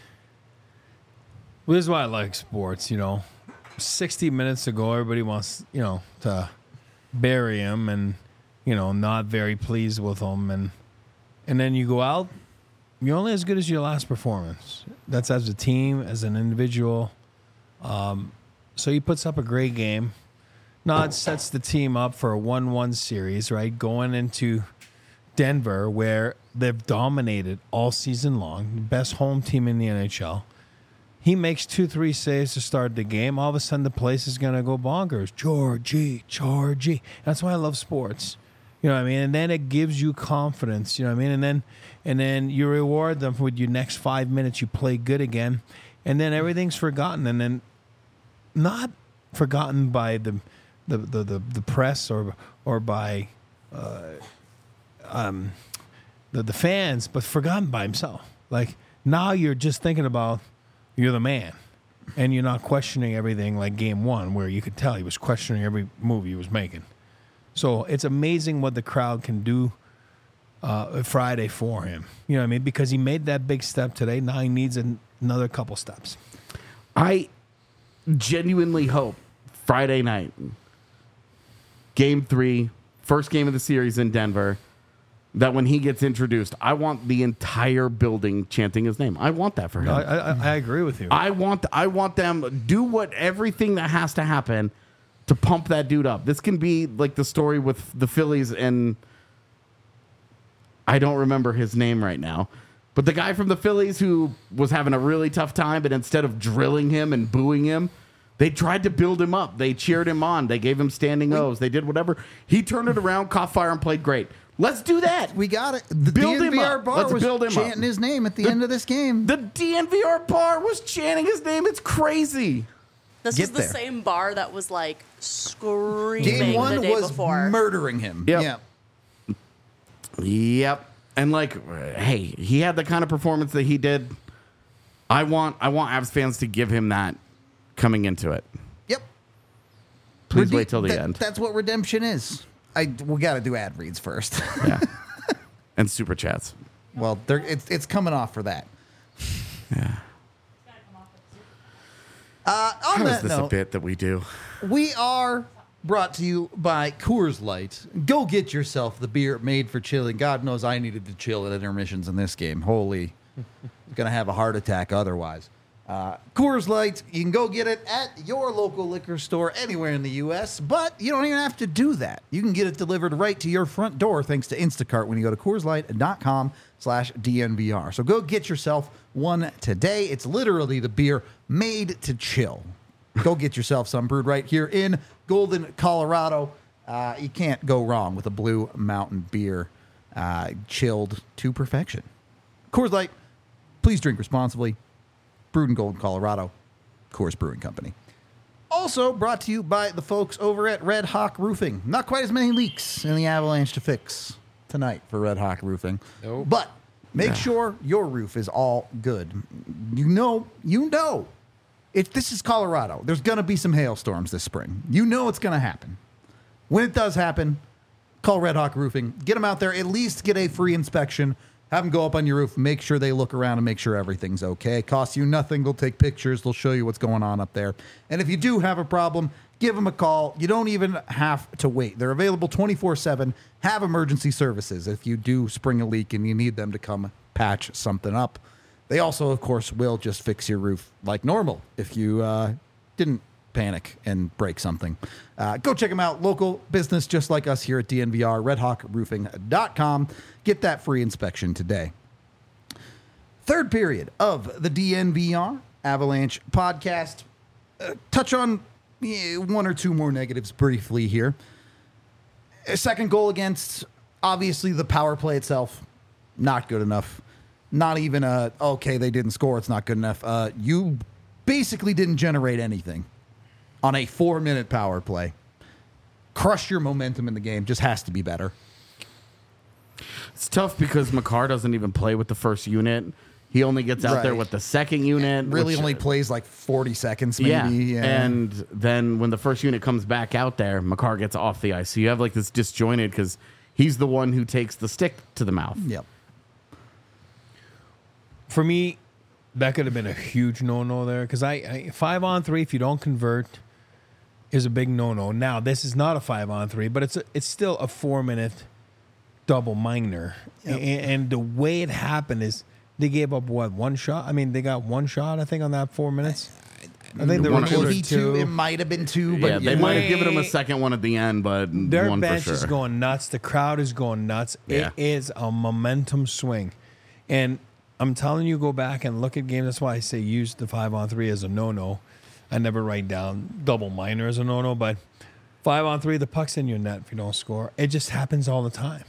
Speaker 2: Well, this is why I like sports, 60 minutes ago, everybody wants, to bury him and, not very pleased with him. And then you go out, you're only as good as your last performance. That's as a team, as an individual. So he puts up a great game. Now it sets the team up for a 1-1 series, right? Going into Denver, where they've dominated all season long, the best home team in the NHL. He makes 2-3 saves to start the game. All of a sudden, the place is going to go bonkers. Georgie. That's why I love sports. You know what I mean? And then it gives you confidence. You know what I mean? And then you reward them with your next 5 minutes. You play good again, and then everything's forgotten. And then not forgotten by the press or by the fans, but forgotten by himself. Like now, you're just thinking about. You're the man, and you're not questioning everything like game 1, where you could tell he was questioning every move he was making. So it's amazing what the crowd can do Friday for him. You know what I mean? Because he made that big step today. Now he needs another couple steps.
Speaker 3: I genuinely hope Friday night, game 3, first game of the series in Denver, that when he gets introduced, I want the entire building chanting his name. I want that for him.
Speaker 2: I agree with you.
Speaker 3: I want them do everything that has to happen to pump that dude up. This can be like the story with the Phillies and I don't remember his name right now, but the guy from the Phillies who was having a really tough time, but instead of drilling him and booing him, they tried to build him up. They cheered him on. They gave him standing O's. They did whatever. He turned it around, caught fire, and played great. Let's do that.
Speaker 1: We got it. The
Speaker 3: Build him
Speaker 1: DNVR
Speaker 3: up.
Speaker 1: bar
Speaker 3: Let's
Speaker 1: was
Speaker 3: build him
Speaker 1: chanting
Speaker 3: up.
Speaker 1: his name at the end of this game.
Speaker 3: The DNVR bar was chanting his name. It's crazy.
Speaker 4: This
Speaker 1: Get
Speaker 4: was the
Speaker 1: there.
Speaker 4: same bar that was like screaming
Speaker 1: Game 1
Speaker 4: the day
Speaker 1: was
Speaker 4: before.
Speaker 1: murdering him.
Speaker 3: Yep.
Speaker 1: Yeah.
Speaker 3: Yep. And hey, he had the kind of performance that he did. I want Avs fans to give him that coming into it.
Speaker 1: Yep.
Speaker 3: Please wait till the end.
Speaker 1: That's what redemption is. We got to do ad reads first.
Speaker 3: Yeah. And super chats.
Speaker 1: Well, it's coming off for that.
Speaker 3: Yeah.
Speaker 1: On
Speaker 3: How
Speaker 1: that
Speaker 3: is this
Speaker 1: note,
Speaker 3: a bit that we do?
Speaker 1: we are brought to you by Coors Light. Go get yourself the beer made for chilling. God knows I needed to chill at intermissions in this game. Holy, gonna have a heart attack otherwise. Coors Light, you can go get it at your local liquor store anywhere in the U.S., but you don't even have to do that. You can get it delivered right to your front door thanks to Instacart when you go to CoorsLight.com/DNVR. So go get yourself one today. It's literally the beer made to chill. Go get yourself some brewed right here in Golden, Colorado. You can't go wrong with a Blue Mountain beer chilled to perfection. Coors Light, please drink responsibly. Brewed in Golden, Colorado. Coors Brewing Company. Also brought to you by the folks over at Red Hawk Roofing. Not quite as many leaks in the avalanche to fix tonight for Red Hawk Roofing.
Speaker 2: Nope.
Speaker 1: But make sure your roof is all good. You know. This is Colorado. There's going to be some hailstorms this spring. You know it's going to happen. When it does happen, call Red Hawk Roofing. Get them out there. At least get a free inspection. Have them go up on your roof. Make sure they look around and make sure everything's okay. It costs you nothing. They'll take pictures. They'll show you what's going on up there. And if you do have a problem, give them a call. You don't even have to wait. They're available 24/7. Have emergency services if you do spring a leak and you need them to come patch something up. They also, of course, will just fix your roof like normal if you didn't panic and break something. Go check them out. Local business just like us here at DNVR, redhawkroofing.com. Get that free inspection today. Third period of the DNVR Avalanche podcast. Touch on one or two more negatives briefly here. A second goal against, obviously, the power play itself, not good enough. Not even okay, they didn't score, it's not good enough. You basically didn't generate anything on a 4-minute power play. Crush your momentum in the game, just has to be better.
Speaker 3: It's tough because Makar doesn't even play with the first unit. He only gets out there with the second unit.
Speaker 1: Really only plays like 40 seconds maybe.
Speaker 3: Yeah. And then when the first unit comes back out there, Makar gets off the ice. So you have like this disjointed because he's the one who takes the stick to the mouth.
Speaker 1: Yep.
Speaker 2: For me, that could have been a huge no-no there because I 5-on-3, if you don't convert, is a big no-no. Now, this is not a 5-on-3, but it's still a 4-minute double minor. Yep. And the way it happened is they gave up, one shot? I mean, they got one shot, I think, on that 4 minutes. I think they recorded two.
Speaker 1: It might have been two, but
Speaker 3: yeah, they might have given him a second one at the end, but
Speaker 2: their
Speaker 3: one
Speaker 2: bench
Speaker 3: for sure.
Speaker 2: is going nuts. The crowd is going nuts.
Speaker 3: Yeah.
Speaker 2: It is a momentum swing. And I'm telling you, go back and look at games. That's why I say use the 5-on-3 as a no-no. I never write down double minor as a no-no, but 5-on-3, the puck's in your net if you don't score. It just happens all the time.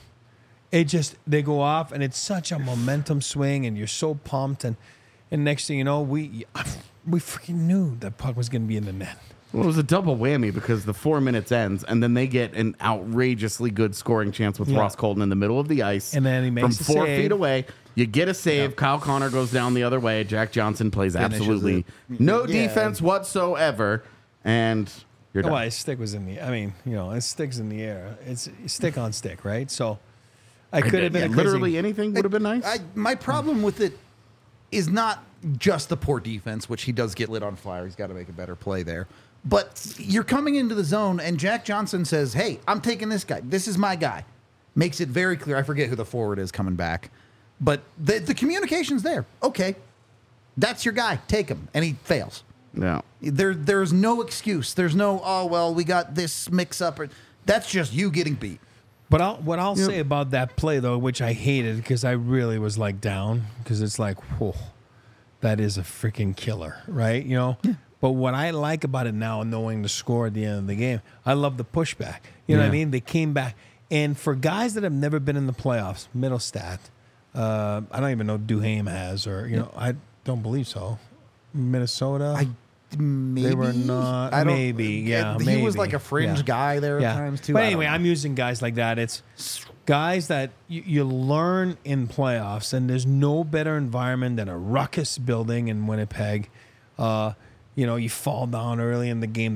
Speaker 2: They go off, and it's such a momentum swing, and you're so pumped. And next thing you know, we freaking knew that puck was going to be in the net.
Speaker 3: Well, it was a double whammy because the 4 minutes ends, and then they get an outrageously good scoring chance with Ross Colton in the middle of the ice.
Speaker 2: And then he makes
Speaker 3: from 4
Speaker 2: save.
Speaker 3: feet away. You get a save. Kyle Connor goes down the other way. Jack Johnson plays absolutely no defense whatsoever, and you're done.
Speaker 2: Well, his stick was in the. I mean, his stick's in the air. It's stick on stick, right? So I could have been
Speaker 3: literally anything would have been nice.
Speaker 1: My problem with it is not just the poor defense, which he does get lit on fire. He's got to make a better play there. But you're coming into the zone, and Jack Johnson says, "Hey, I'm taking this guy. This is my guy." Makes it very clear. I forget who the forward is coming back. But the communication's there. Okay, that's your guy. Take him. And he fails.
Speaker 3: No.
Speaker 1: There's no excuse. There's no, we got this mix up. That's just you getting beat.
Speaker 2: But what I'll say about that play, though, which I hated because I really was like down because it's like, whoa, that is a freaking killer, right? Yeah. But what I like about it now, knowing the score at the end of the game, I love the pushback. You know what I mean? They came back. And for guys that have never been in the playoffs, Middlestat, I don't even know Duhaime has, or I don't believe so. Minnesota,
Speaker 1: Maybe
Speaker 2: they were not. Maybe.
Speaker 1: He was like a fringe guy there at times too.
Speaker 2: But anyway, I'm using guys like that. It's guys that you learn in playoffs, and there's no better environment than a ruckus building in Winnipeg. You fall down early in the game.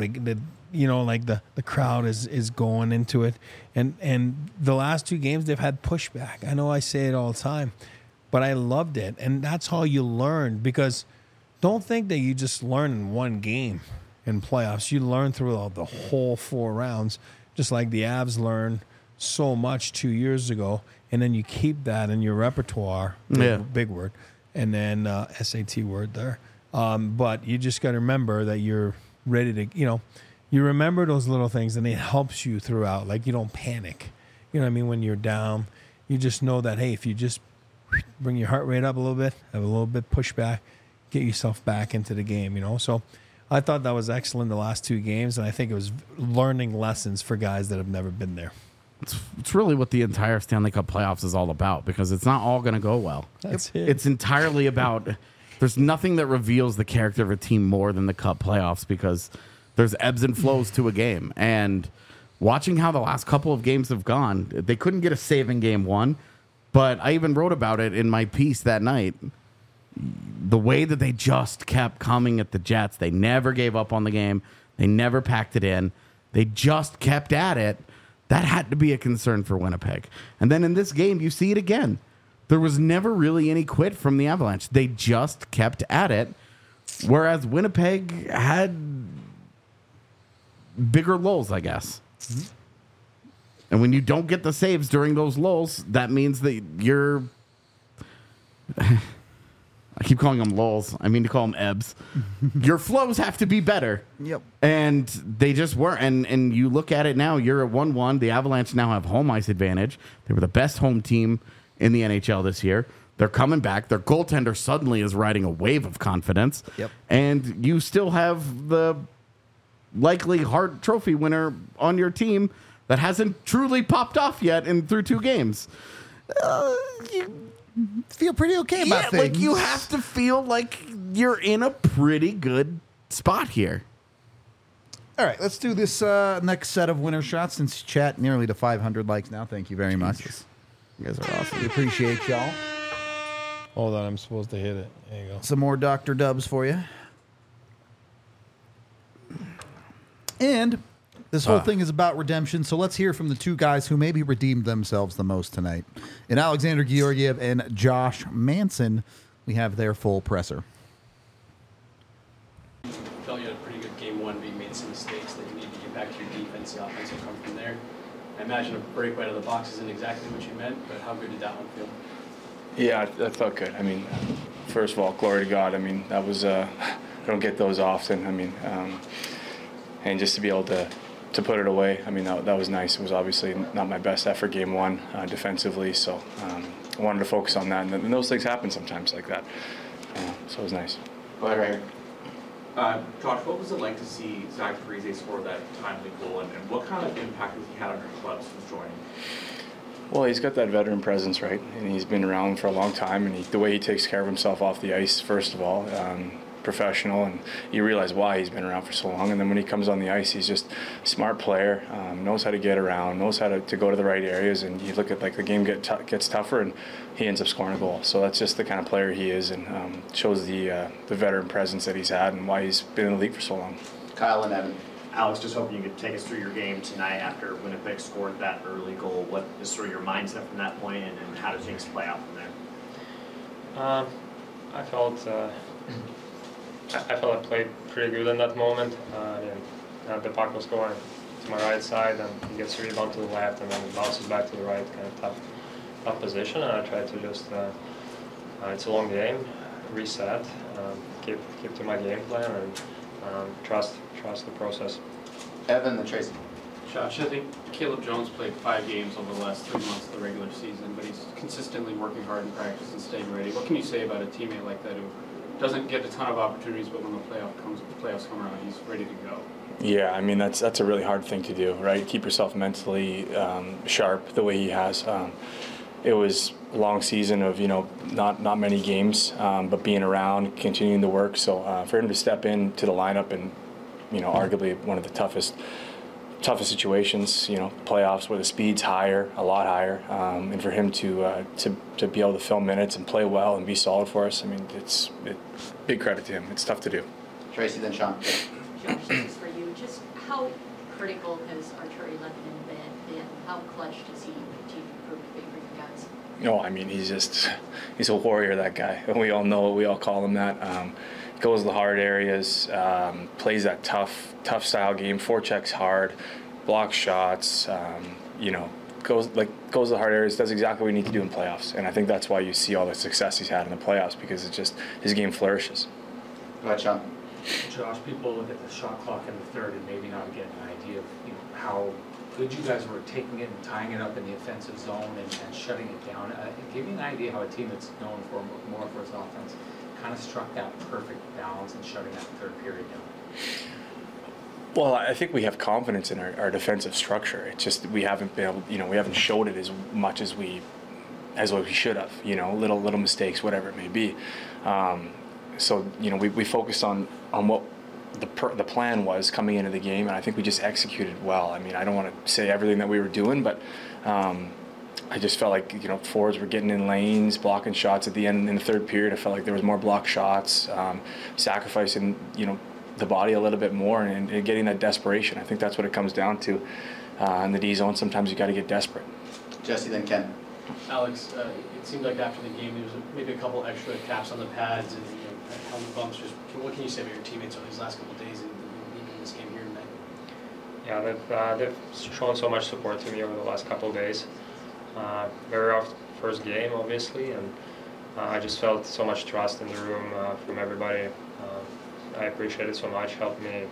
Speaker 2: The crowd is going into it. And the last two games, they've had pushback. I know I say it all the time, but I loved it. And that's how you learn, because don't think that you just learn in one game in playoffs. You learn throughout the whole 4 rounds, just like the Avs learned so much 2 years ago. And then you keep that in your repertoire, big word, and then SAT word there. But you just got to remember that you're ready to, you remember those little things, and it helps you throughout. Like, you don't panic. You know what I mean? When you're down, you just know that, hey, if you just bring your heart rate up a little bit, have a little bit pushback, get yourself back into the game, So I thought that was excellent the last 2 games, and I think it was learning lessons for guys that have never been there.
Speaker 3: It's really what the entire Stanley Cup playoffs is all about, because it's not all going to go well.
Speaker 2: That's it.
Speaker 3: It's entirely about – there's nothing that reveals the character of a team more than the Cup playoffs, because – there's ebbs and flows to a game. And watching how the last couple of games have gone, they couldn't get a save in game 1, but I even wrote about it in my piece that night. The way that they just kept coming at the Jets, they never gave up on the game. They never packed it in. They just kept at it. That had to be a concern for Winnipeg. And then in this game, you see it again. There was never really any quit from the Avalanche. They just kept at it, whereas Winnipeg had bigger lulls, I guess. Mm-hmm. And when you don't get the saves during those lulls, that means that I keep calling them lulls. I mean to call them ebbs. Your flows have to be better.
Speaker 1: Yep.
Speaker 3: And they just weren't. And you look at it now, you're at 1-1. The Avalanche now have home ice advantage. They were the best home team in the NHL this year. They're coming back. Their goaltender suddenly is riding a wave of confidence.
Speaker 1: Yep.
Speaker 3: And you still have the likely Hart Trophy winner on your team that hasn't truly popped off yet through 2 games. You
Speaker 1: Feel pretty okay about things.
Speaker 3: like you have to feel like you're in a pretty good spot here.
Speaker 1: All right, let's do this next set of winner shots since chat nearly to 500 likes now. Thank you very much.
Speaker 3: You guys are awesome.
Speaker 1: We appreciate y'all.
Speaker 2: Hold on, I'm supposed to hit it. There you go.
Speaker 1: Some more Dr. Dubs for you. And this whole thing is about redemption, so let's hear from the 2 guys who maybe redeemed themselves the most tonight. In Alexander Georgiev and Josh Manson, we have their full presser.
Speaker 5: Felt you had a pretty good game 1, but you made some mistakes that you need to get back to your defense. The offense will come from there. I imagine a break right out of the box isn't exactly what you meant, but how good did that one feel?
Speaker 6: Yeah, that felt good. I mean, first of all, glory to God. I mean, that was, I don't get those often. I mean, and just to be able to put it away, I mean, that was nice. It was obviously not my best effort game 1 defensively, so I wanted to focus on that. And those things happen sometimes like that. So it was nice.
Speaker 7: Go ahead, right here. Josh, what was it like to see Zach Parise score that timely goal, and what kind of impact has he had on your club since joining?
Speaker 6: Well, he's got that veteran presence, right? And he's been around for a long time, and the way he takes care of himself off the ice, first of all, professional, and you realize why he's been around for so long. And then when he comes on the ice, he's just a smart player, knows how to get around, knows how to go to the right areas. And you look at like the game gets tougher, and he ends up scoring a goal. So that's just the kind of player he is, and shows the veteran presence that he's had and why he's been in the league for so long.
Speaker 7: Kyle and Evan.
Speaker 8: Alex, just hoping you could take us through your game tonight after Winnipeg scored that early goal. What is sort of your mindset from that point, and how do things play out from there?
Speaker 9: I felt I played pretty good in that moment. The puck was going to my right side, and he gets a rebound to the left, and then it bounces back to the right, kind of tough position. And I tried to just, it's a long game, reset, keep to my game plan, and trust the process.
Speaker 7: Evan and Tracy.
Speaker 5: Josh, I think Caleb Jones played 5 games over the last 3 months of the regular season, but he's consistently working hard in practice and staying ready. What can you say about a teammate like that who doesn't get a ton of opportunities, but when the playoffs come around, he's ready to go?
Speaker 6: Yeah, I mean, that's a really hard thing to do, right? Keep yourself mentally sharp the way he has. It was a long season of, not many games, but being around, continuing to work. So for him to step into the lineup and, arguably one of the toughest situations, playoffs where the speed's higher, a lot higher, and for him to be able to fill minutes and play well and be solid for us, I mean, it's big credit to him. It's tough to do.
Speaker 7: Tracy, then Sean.
Speaker 10: Josh, this is for you. Just how critical has Artturi Lehkonen been? How clutch does he continue to prove to be for you guys?
Speaker 6: No, I mean, he's a warrior, that guy. And we all know it. We all call him that. Goes to the hard areas, plays that tough style game, forechecks hard, blocks shots, goes to the hard areas, does exactly what we need to do in playoffs. And I think that's why you see all the success he's had in the playoffs, because it's just his game flourishes.
Speaker 7: Go ahead, Sean.
Speaker 11: Josh, people look at the shot clock in the third and maybe not get an idea of how good you guys were taking it and tying it up in the offensive zone and shutting it down. Give me an idea how a team that's known for more for its offense kind of struck that perfect balance and shutting that third period down.
Speaker 6: Well, I think we have confidence in our defensive structure. It's just we haven't been able, we haven't showed it as much as we should have. Little mistakes, whatever it may be. So we focused on what the plan was coming into the game, and I think we just executed well. I mean, I don't want to say everything that we were doing, but I just felt like forwards were getting in lanes, blocking shots at the end in the third period. I felt like there was more block shots, sacrificing the body a little bit more, and getting that desperation. I think that's what it comes down to in the D zone. Sometimes you got to get desperate.
Speaker 7: Jesse, then Ken.
Speaker 5: Alex, it seemed like after the game there was maybe a couple extra taps on the pads and helmet bumps. What can you say about your teammates over these last couple of days and even this game here tonight?
Speaker 9: Yeah, they've shown so much support to me over the last couple of days. Very rough first game, obviously, and I just felt so much trust in the room from everybody. I appreciate it so much. Helped me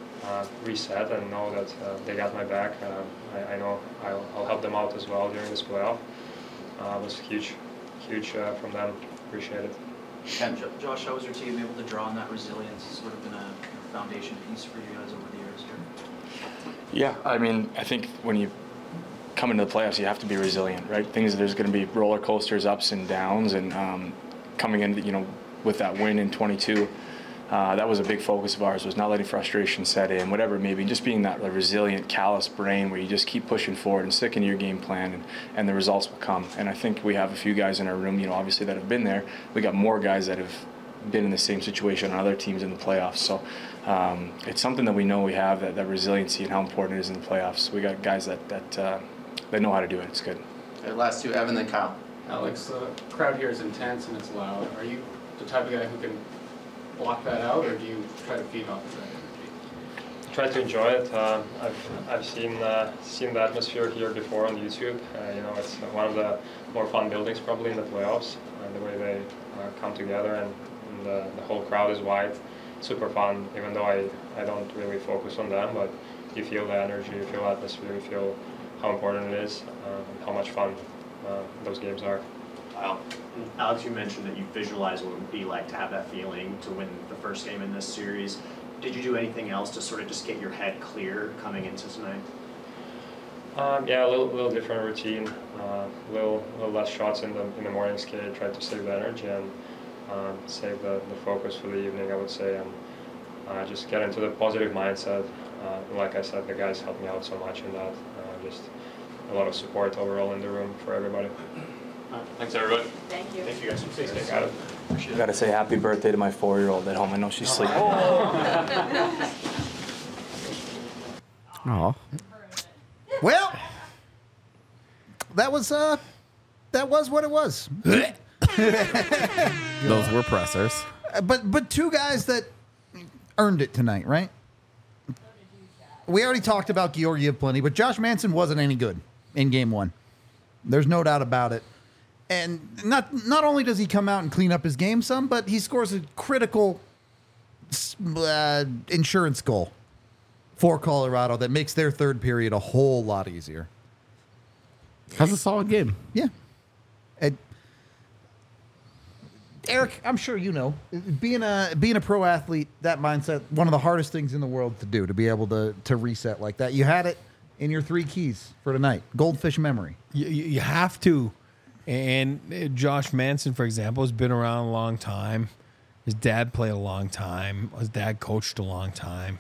Speaker 9: reset and know that they got my back. I know I'll help them out as well during this playoff. It was huge from them. Appreciate it.
Speaker 12: And Josh, how was your team able to draw on that resilience? It's sort of been a foundation piece for you guys over the years here.
Speaker 6: Yeah, I mean, I think when you come into the playoffs, you have to be resilient, right? There's going to be roller coasters, ups and downs, and coming in, with that win in 22, that was a big focus of ours, was not letting frustration set in, whatever it may be, just being that resilient, callous brain where you just keep pushing forward and sticking to your game plan, and the results will come. And I think we have a few guys in our room, obviously that have been there. We got more guys that have been in the same situation on other teams in the playoffs. So it's something that we know we have, that resiliency and how important it is in the playoffs. We got guys that know how to do it. It's good.
Speaker 12: Okay, last two, Evan, then Kyle.
Speaker 5: Alex, the crowd here is intense and it's loud. Are you the type of guy who can block that out, or do you try to feed off of that energy?
Speaker 9: Try to enjoy it. I've seen the atmosphere here before on YouTube. It's one of the more fun buildings probably in the playoffs. The way they come together and the whole crowd is wide. Super fun, even though I don't really focus on them, but you feel the energy, you feel the atmosphere, you feel how important it is, and how much fun those games are.
Speaker 8: Wow. Alex, you mentioned that you visualize what it would be like to have that feeling to win the first game in this series. Did you do anything else to sort of just get your head clear coming into tonight?
Speaker 9: Yeah, a little different routine, little less shots in the morning skate. Tried to save the energy and save the focus for the evening, I would say, and just get into the positive mindset. Like I said, the guys helped me out so much in that. Just a lot of support overall in the room for everybody.
Speaker 5: Thanks, everybody.
Speaker 10: Thank you.
Speaker 5: Thank you guys. Stay safe.
Speaker 9: Got it.
Speaker 6: I got to say happy birthday to my 4-year-old at home. I know she's sleeping.
Speaker 3: Oh.
Speaker 1: Well, that was what it was.
Speaker 3: Those were pressers.
Speaker 1: But two guys that earned it tonight, right? We already talked about Georgiev plenty, but Josh Manson wasn't any good in game one. There's no doubt about it. And not only does he come out and clean up his game some, but he scores a critical insurance goal for Colorado that makes their third period a whole lot easier.
Speaker 3: That's a solid game.
Speaker 1: Yeah. And Eric, I'm sure you know, being a pro athlete, that mindset, one of the hardest things in the world to do, to be able to reset like that. You had it in your 3 keys for tonight. Goldfish memory.
Speaker 2: You have to. And Josh Manson, for example, has been around a long time. His dad played a long time. His dad coached a long time.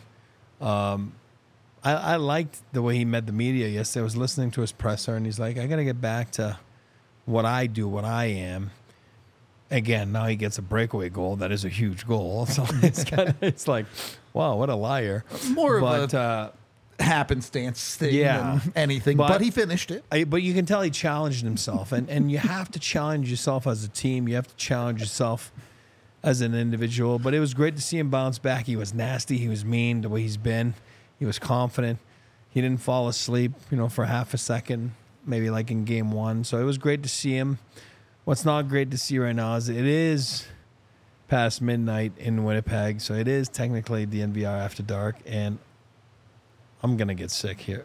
Speaker 2: I liked the way he met the media yesterday. I was listening to his presser, and he's like, I got to get back to what I do, what I am. Again, now he gets a breakaway goal. That is a huge goal. So it's like, wow, what a liar.
Speaker 1: More of a happenstance thing than anything, but he finished it.
Speaker 2: But you can tell he challenged himself, and you have to challenge yourself as a team. You have to challenge yourself as an individual. But it was great to see him bounce back. He was nasty. He was mean the way he's been. He was confident. He didn't fall asleep, for half a second, maybe like in game one. So it was great to see him. What's not great to see right now is it is past midnight in Winnipeg, so it is technically the NVR After Dark, and I'm going to get sick here.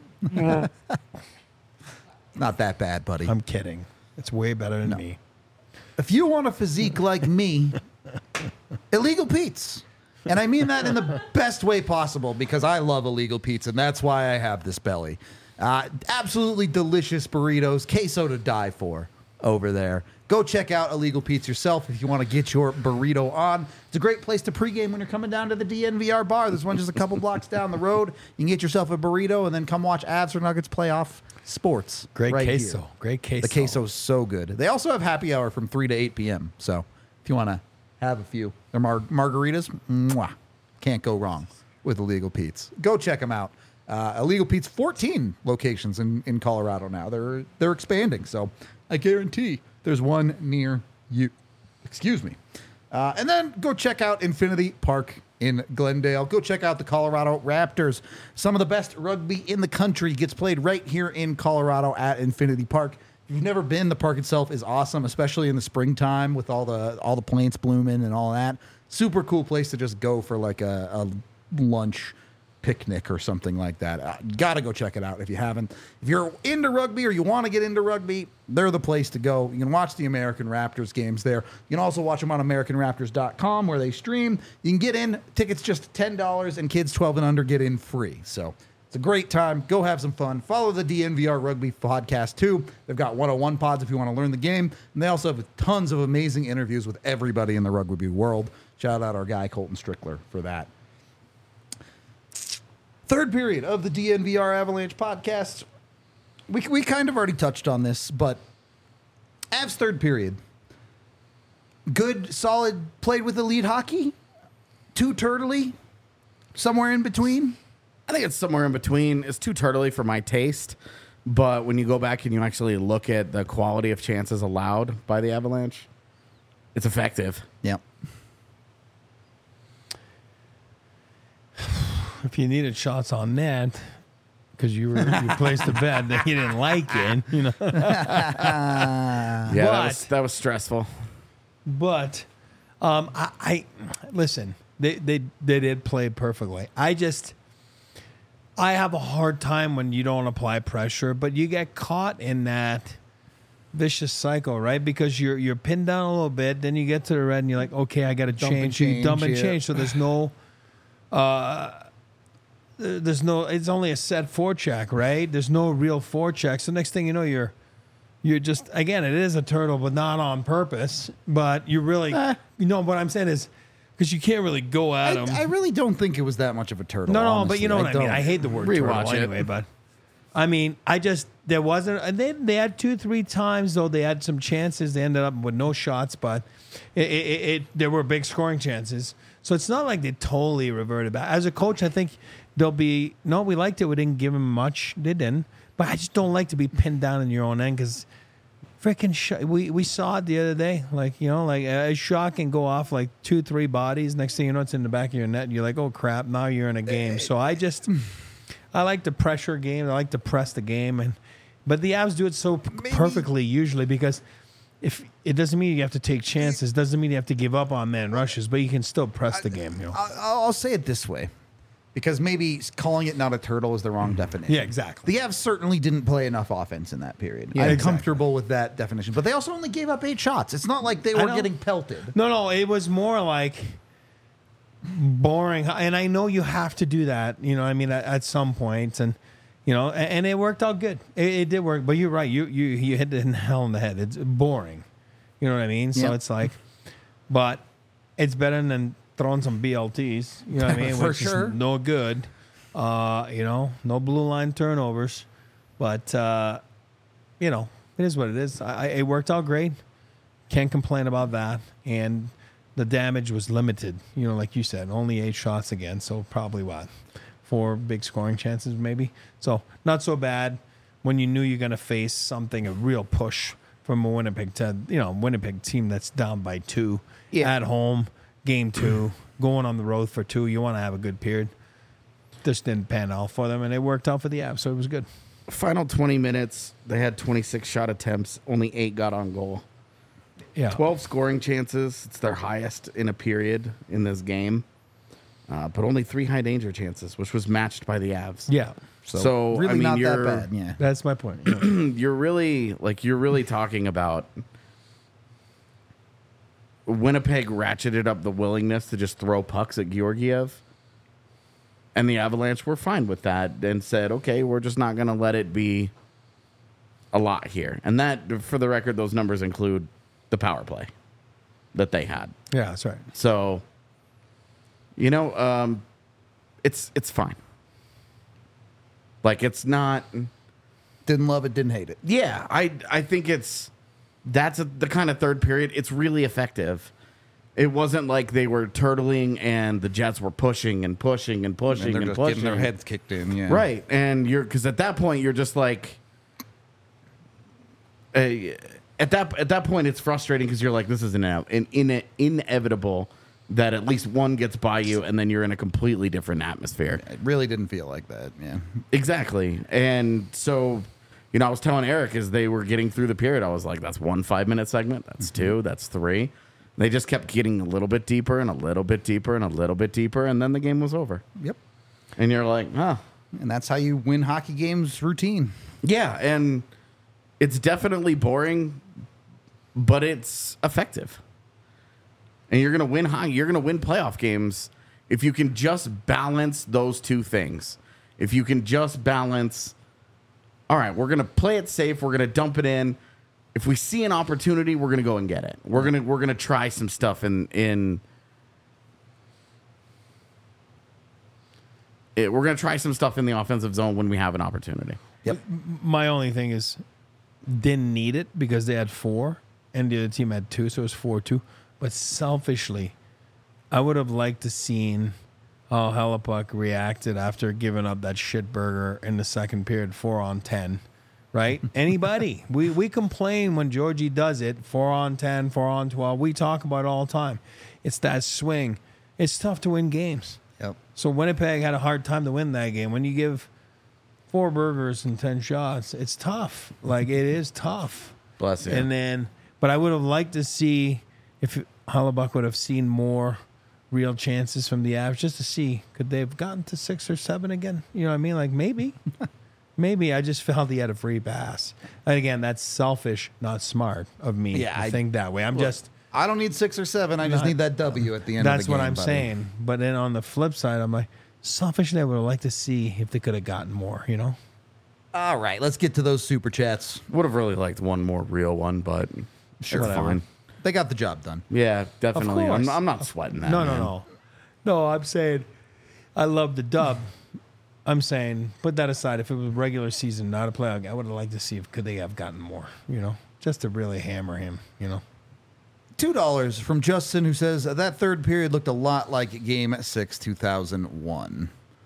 Speaker 1: Not that bad, buddy.
Speaker 2: I'm kidding. It's way better than me.
Speaker 1: If you want a physique like me, Illegal Pete's. And I mean that in the best way possible, because I love Illegal Pete's, and that's why I have this belly. Absolutely delicious burritos, queso to die for over there. Go check out Illegal Pete's yourself if you want to get your burrito on. It's a great place to pregame when you're coming down to the DNVR bar. There's one just a couple blocks down the road. You can get yourself a burrito and then come watch Avs or Nuggets playoff sports.
Speaker 2: Great
Speaker 1: right
Speaker 2: queso.
Speaker 1: here.
Speaker 2: Great queso.
Speaker 1: The queso's so good. They also have happy hour from 3 to 8 p.m. So if you want to have a few, their margaritas, mwah, can't go wrong with Illegal Pete's. Go check them out. Illegal Pete's 14 locations in Colorado now. They're expanding, so I guarantee there's one near you. Excuse me. And then go check out Infinity Park in Glendale. Go check out the Colorado Raptors. Some of the best rugby in the country gets played right here in Colorado at Infinity Park. If you've never been, the park itself is awesome, especially in the springtime with all the plants blooming and all that. Super cool place to just go for like a lunch picnic or something like that. Gotta go check it out if you haven't. If you're into rugby or you want to get into rugby, they're the place to go. You can watch the American Raptors games there. You can also watch them on AmericanRaptors.com where they stream. You can get in. Tickets just $10, and kids 12 and under get in free. So it's a great time. Go have some fun. Follow the DNVR Rugby podcast too. They've got 101 pods if you want to learn the game. And they also have tons of amazing interviews with everybody in the rugby world. Shout out our guy, Colton Strickler, for that. Third period of the DNVR Avalanche podcast. We kind of already touched on this, but Avs third period. Good, solid, played with elite hockey. Too turtley. Somewhere in between.
Speaker 3: I think it's somewhere in between. It's too turtley for my taste. But when you go back and you actually look at the quality of chances allowed by the Avalanche, it's effective.
Speaker 1: Yep.
Speaker 2: If you needed shots on net because you placed a bet that you didn't like it, you know.
Speaker 3: That was stressful.
Speaker 2: But I listen. They did play perfectly. I have a hard time when you don't apply pressure, but you get caught in that vicious cycle, right? Because you're pinned down a little bit, then you get to the red and you're like, okay, I got to change. You dump and change. So there's no. It's only a set forecheck, right? There's no real forecheck. So next thing you know, you're just, again, it is a turtle, but not on purpose. But you really, you know what I'm saying is, because you can't really go at them.
Speaker 1: I really don't think it was that much of a turtle.
Speaker 2: No,
Speaker 1: honestly.
Speaker 2: but you know what I mean. I hate the word
Speaker 3: Rewatch
Speaker 2: turtle
Speaker 3: it.
Speaker 2: anyway, but I mean, there wasn't, they had 2-3 times, though they had some chances. They ended up with no shots, but there were big scoring chances. So it's not like they totally reverted back. As a coach, I think they'll be, no, we liked it. We didn't give them much. They didn't. But I just don't like to be pinned down in your own end because freaking we saw it the other day. Like, you know, like a shot can go off like 2-3 bodies. Next thing you know, it's in the back of your net. And you're like, oh, crap, now you're in a game. So I like to pressure game. I like to press the game. But the Avs do it so perfectly usually because if it doesn't mean you have to take chances, doesn't mean you have to give up on man rushes, but you can still press the game. You know?
Speaker 1: I'll say it this way, because maybe calling it not a turtle is the wrong definition.
Speaker 2: Yeah, exactly.
Speaker 1: The Avs certainly didn't play enough offense in that period.
Speaker 2: Yeah,
Speaker 1: I'm
Speaker 2: exactly.
Speaker 1: comfortable with that definition, but they also only gave up 8 shots. It's not like they were getting pelted.
Speaker 2: No, it was more like boring, and I know you have to do that. You know, I mean, at some point, and you know, and it worked out good. It did work, but you're right. You hit the nail on the head. It's boring. You know what I mean? So it's like, but it's better than throwing some BLTs. You know what I mean?
Speaker 1: For
Speaker 2: Which
Speaker 1: sure.
Speaker 2: is no good. You know, no blue line turnovers, but you know, it is what it is. It worked out great. Can't complain about that. And the damage was limited. You know, like you said, only 8 shots again. So probably 4 big scoring chances maybe. So not so bad when you knew you're going to face something, a real push from a Winnipeg team that's down by 2 at home, game 2, going on the road for 2. You want to have a good period. This didn't pan out for them, and it worked out for the Avs, so it was good.
Speaker 3: Final 20 minutes, they had 26 shot attempts. Only 8 got on goal.
Speaker 2: Yeah.
Speaker 3: 12 scoring chances. It's their highest in a period in this game. But only 3 high danger chances, which was matched by the Avs.
Speaker 2: Yeah.
Speaker 3: So
Speaker 1: really
Speaker 3: I mean,
Speaker 1: not
Speaker 3: you're,
Speaker 1: that bad. Yeah.
Speaker 2: That's my point. Yeah.
Speaker 3: you're really talking about Winnipeg ratcheted up the willingness to just throw pucks at Georgiev. And the Avalanche were fine with that and said, okay, we're just not going to let it be a lot here. And that, for the record, those numbers include the power play that they had.
Speaker 2: Yeah, that's right.
Speaker 3: So, you know, it's fine. Like, it's not...
Speaker 1: Didn't love it, didn't hate it.
Speaker 3: Yeah, I think that's the kind of third period. It's really effective. It wasn't like they were turtling and the Jets were pushing and pushing and pushing
Speaker 1: And they're
Speaker 3: and
Speaker 1: just
Speaker 3: pushing.
Speaker 1: getting their heads kicked in. Yeah.
Speaker 3: Right, and because at that point you're just like, at that point it's frustrating because you're like, this is inevitable that at least one gets by you and then you're in a completely different atmosphere.
Speaker 1: It really didn't feel like that. Yeah.
Speaker 3: Exactly, and so you know, I was telling Eric as they were getting through the period, I was like, that's 1 5-minute segment. That's 2. That's 3. They just kept getting a little bit deeper and a little bit deeper and a little bit deeper, and then the game was over.
Speaker 1: Yep.
Speaker 3: And you're like, huh.
Speaker 1: And that's how you win hockey games routine.
Speaker 3: Yeah, and it's definitely boring, but it's effective. And you're going to win hockey. You're going to win playoff games if you can just balance those two things. If you can just balance, all right, we're going to play it safe. We're going to dump it in. If we see an opportunity, we're going to go and get it. We're going to try some stuff we're going to try some stuff in the offensive zone when we have an opportunity.
Speaker 1: Yep.
Speaker 2: My only thing is, didn't need it because they had 4 and the other team had 2, so it was 4-2. But selfishly, I would have liked to seen how Hellebuyck reacted after giving up that shit burger in the second period, 4-on-10. Right? Anybody. We complain when Georgie does it, 4-on-10, 4-on-12. We talk about it all the time. It's that swing. It's tough to win games.
Speaker 1: Yep.
Speaker 2: So Winnipeg had a hard time to win that game. When you give 4 burgers and 10 shots, it's tough. Like, it is tough.
Speaker 3: Bless you.
Speaker 2: And then, but I would have liked to see if Hellebuyck would have seen more real chances from the Avs just to see, could they have gotten to 6 or 7 again? You know what I mean? Like, maybe. Maybe. I just felt he had a free pass. And again, that's selfish, not smart of me to think that way.
Speaker 1: I don't need 6 or 7. I just need that W at the end of the game.
Speaker 2: That's what I'm saying. But then on the flip side, I'm like, selfishly, I would have liked to see if they could have gotten more, you know?
Speaker 1: All right, let's get to those super chats.
Speaker 3: Would have really liked one more real one, but sure, it's fine.
Speaker 1: They got the job done.
Speaker 3: Yeah, definitely.
Speaker 2: Of course.
Speaker 3: I'm not sweating that.
Speaker 2: No,
Speaker 3: man.
Speaker 2: No, I'm saying I love the dub. I'm saying put that aside. If it was regular season, not a playoff, I would have liked to see if could they have gotten more, you know, just to really hammer him, you know.
Speaker 1: $2 from Justin, who says that third period looked a lot like Game 6, 2001.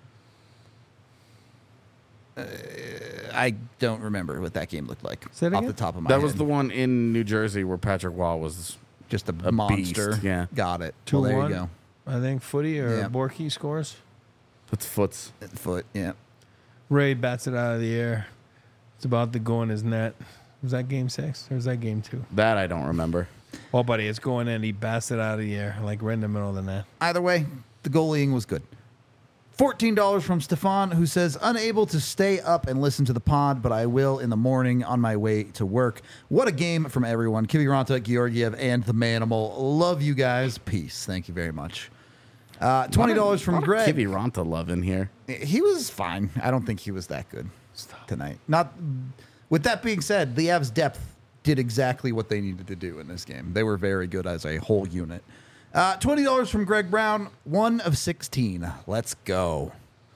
Speaker 1: I don't remember what that game looked like off the top of my head.
Speaker 3: That was the one in New Jersey where Patrick Waugh was
Speaker 1: just a monster.
Speaker 3: Beast. Yeah,
Speaker 1: got it.
Speaker 2: 2-1.
Speaker 1: Well, there you go.
Speaker 2: I think Footy or Borky scores.
Speaker 3: That's Foots.
Speaker 1: Foot, yeah.
Speaker 2: Ray bats it out of the air. It's about to go in his net. Was that Game 6 or was that Game 2?
Speaker 3: That I don't remember.
Speaker 2: Well, buddy, it's going in. He bats it out of the air, like right in the middle of the net.
Speaker 1: Either way, the goalieing was good. $14 from Stefan, who says, unable to stay up and listen to the pod, but I will in the morning on my way to work. What a game from everyone. Kiviranta, Georgiev, and the Manimal. Love you guys. Peace. Thank you very much. $20 from Greg.
Speaker 3: Kiviranta love in here.
Speaker 1: He was fine. I don't think he was that good tonight. Not. With that being said, the Avs' depth did exactly what they needed to do in this game. They were very good as a whole unit. $20 from Greg Brown, 1 of 16. Let's go.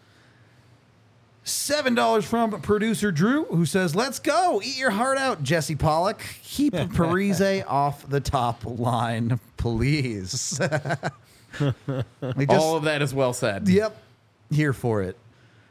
Speaker 1: $7 from producer Drew, who says, let's go. Eat your heart out, Jesse Pollock. Keep Parise off the top line, please.
Speaker 3: All of that is well said.
Speaker 1: Yep. Here for it.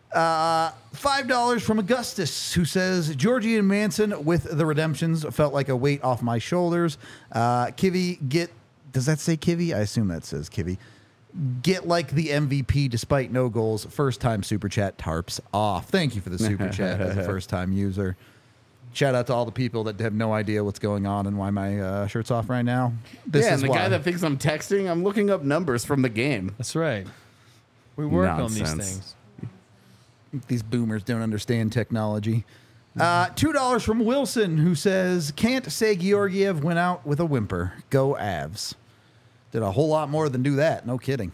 Speaker 1: $5 from Augustus, who says, Georgie and Manson with the redemptions felt like a weight off my shoulders. Kivy, does that say Kivy? I assume that says Kivy. Get like the MVP despite no goals. First time super chat tarps off. Thank you for the super chat as a first time user. Shout out to all the people that have no idea what's going on and why my shirt's off right now. This is
Speaker 3: and the
Speaker 1: why.
Speaker 3: guy that thinks I'm texting, I'm looking up numbers from the game.
Speaker 2: That's right. We work on these
Speaker 3: Nonsense.
Speaker 2: things.
Speaker 1: These boomers don't understand technology. $2 from Wilson, who says, can't say Georgiev went out with a whimper. Go Avs. Did a whole lot more than do that. No kidding.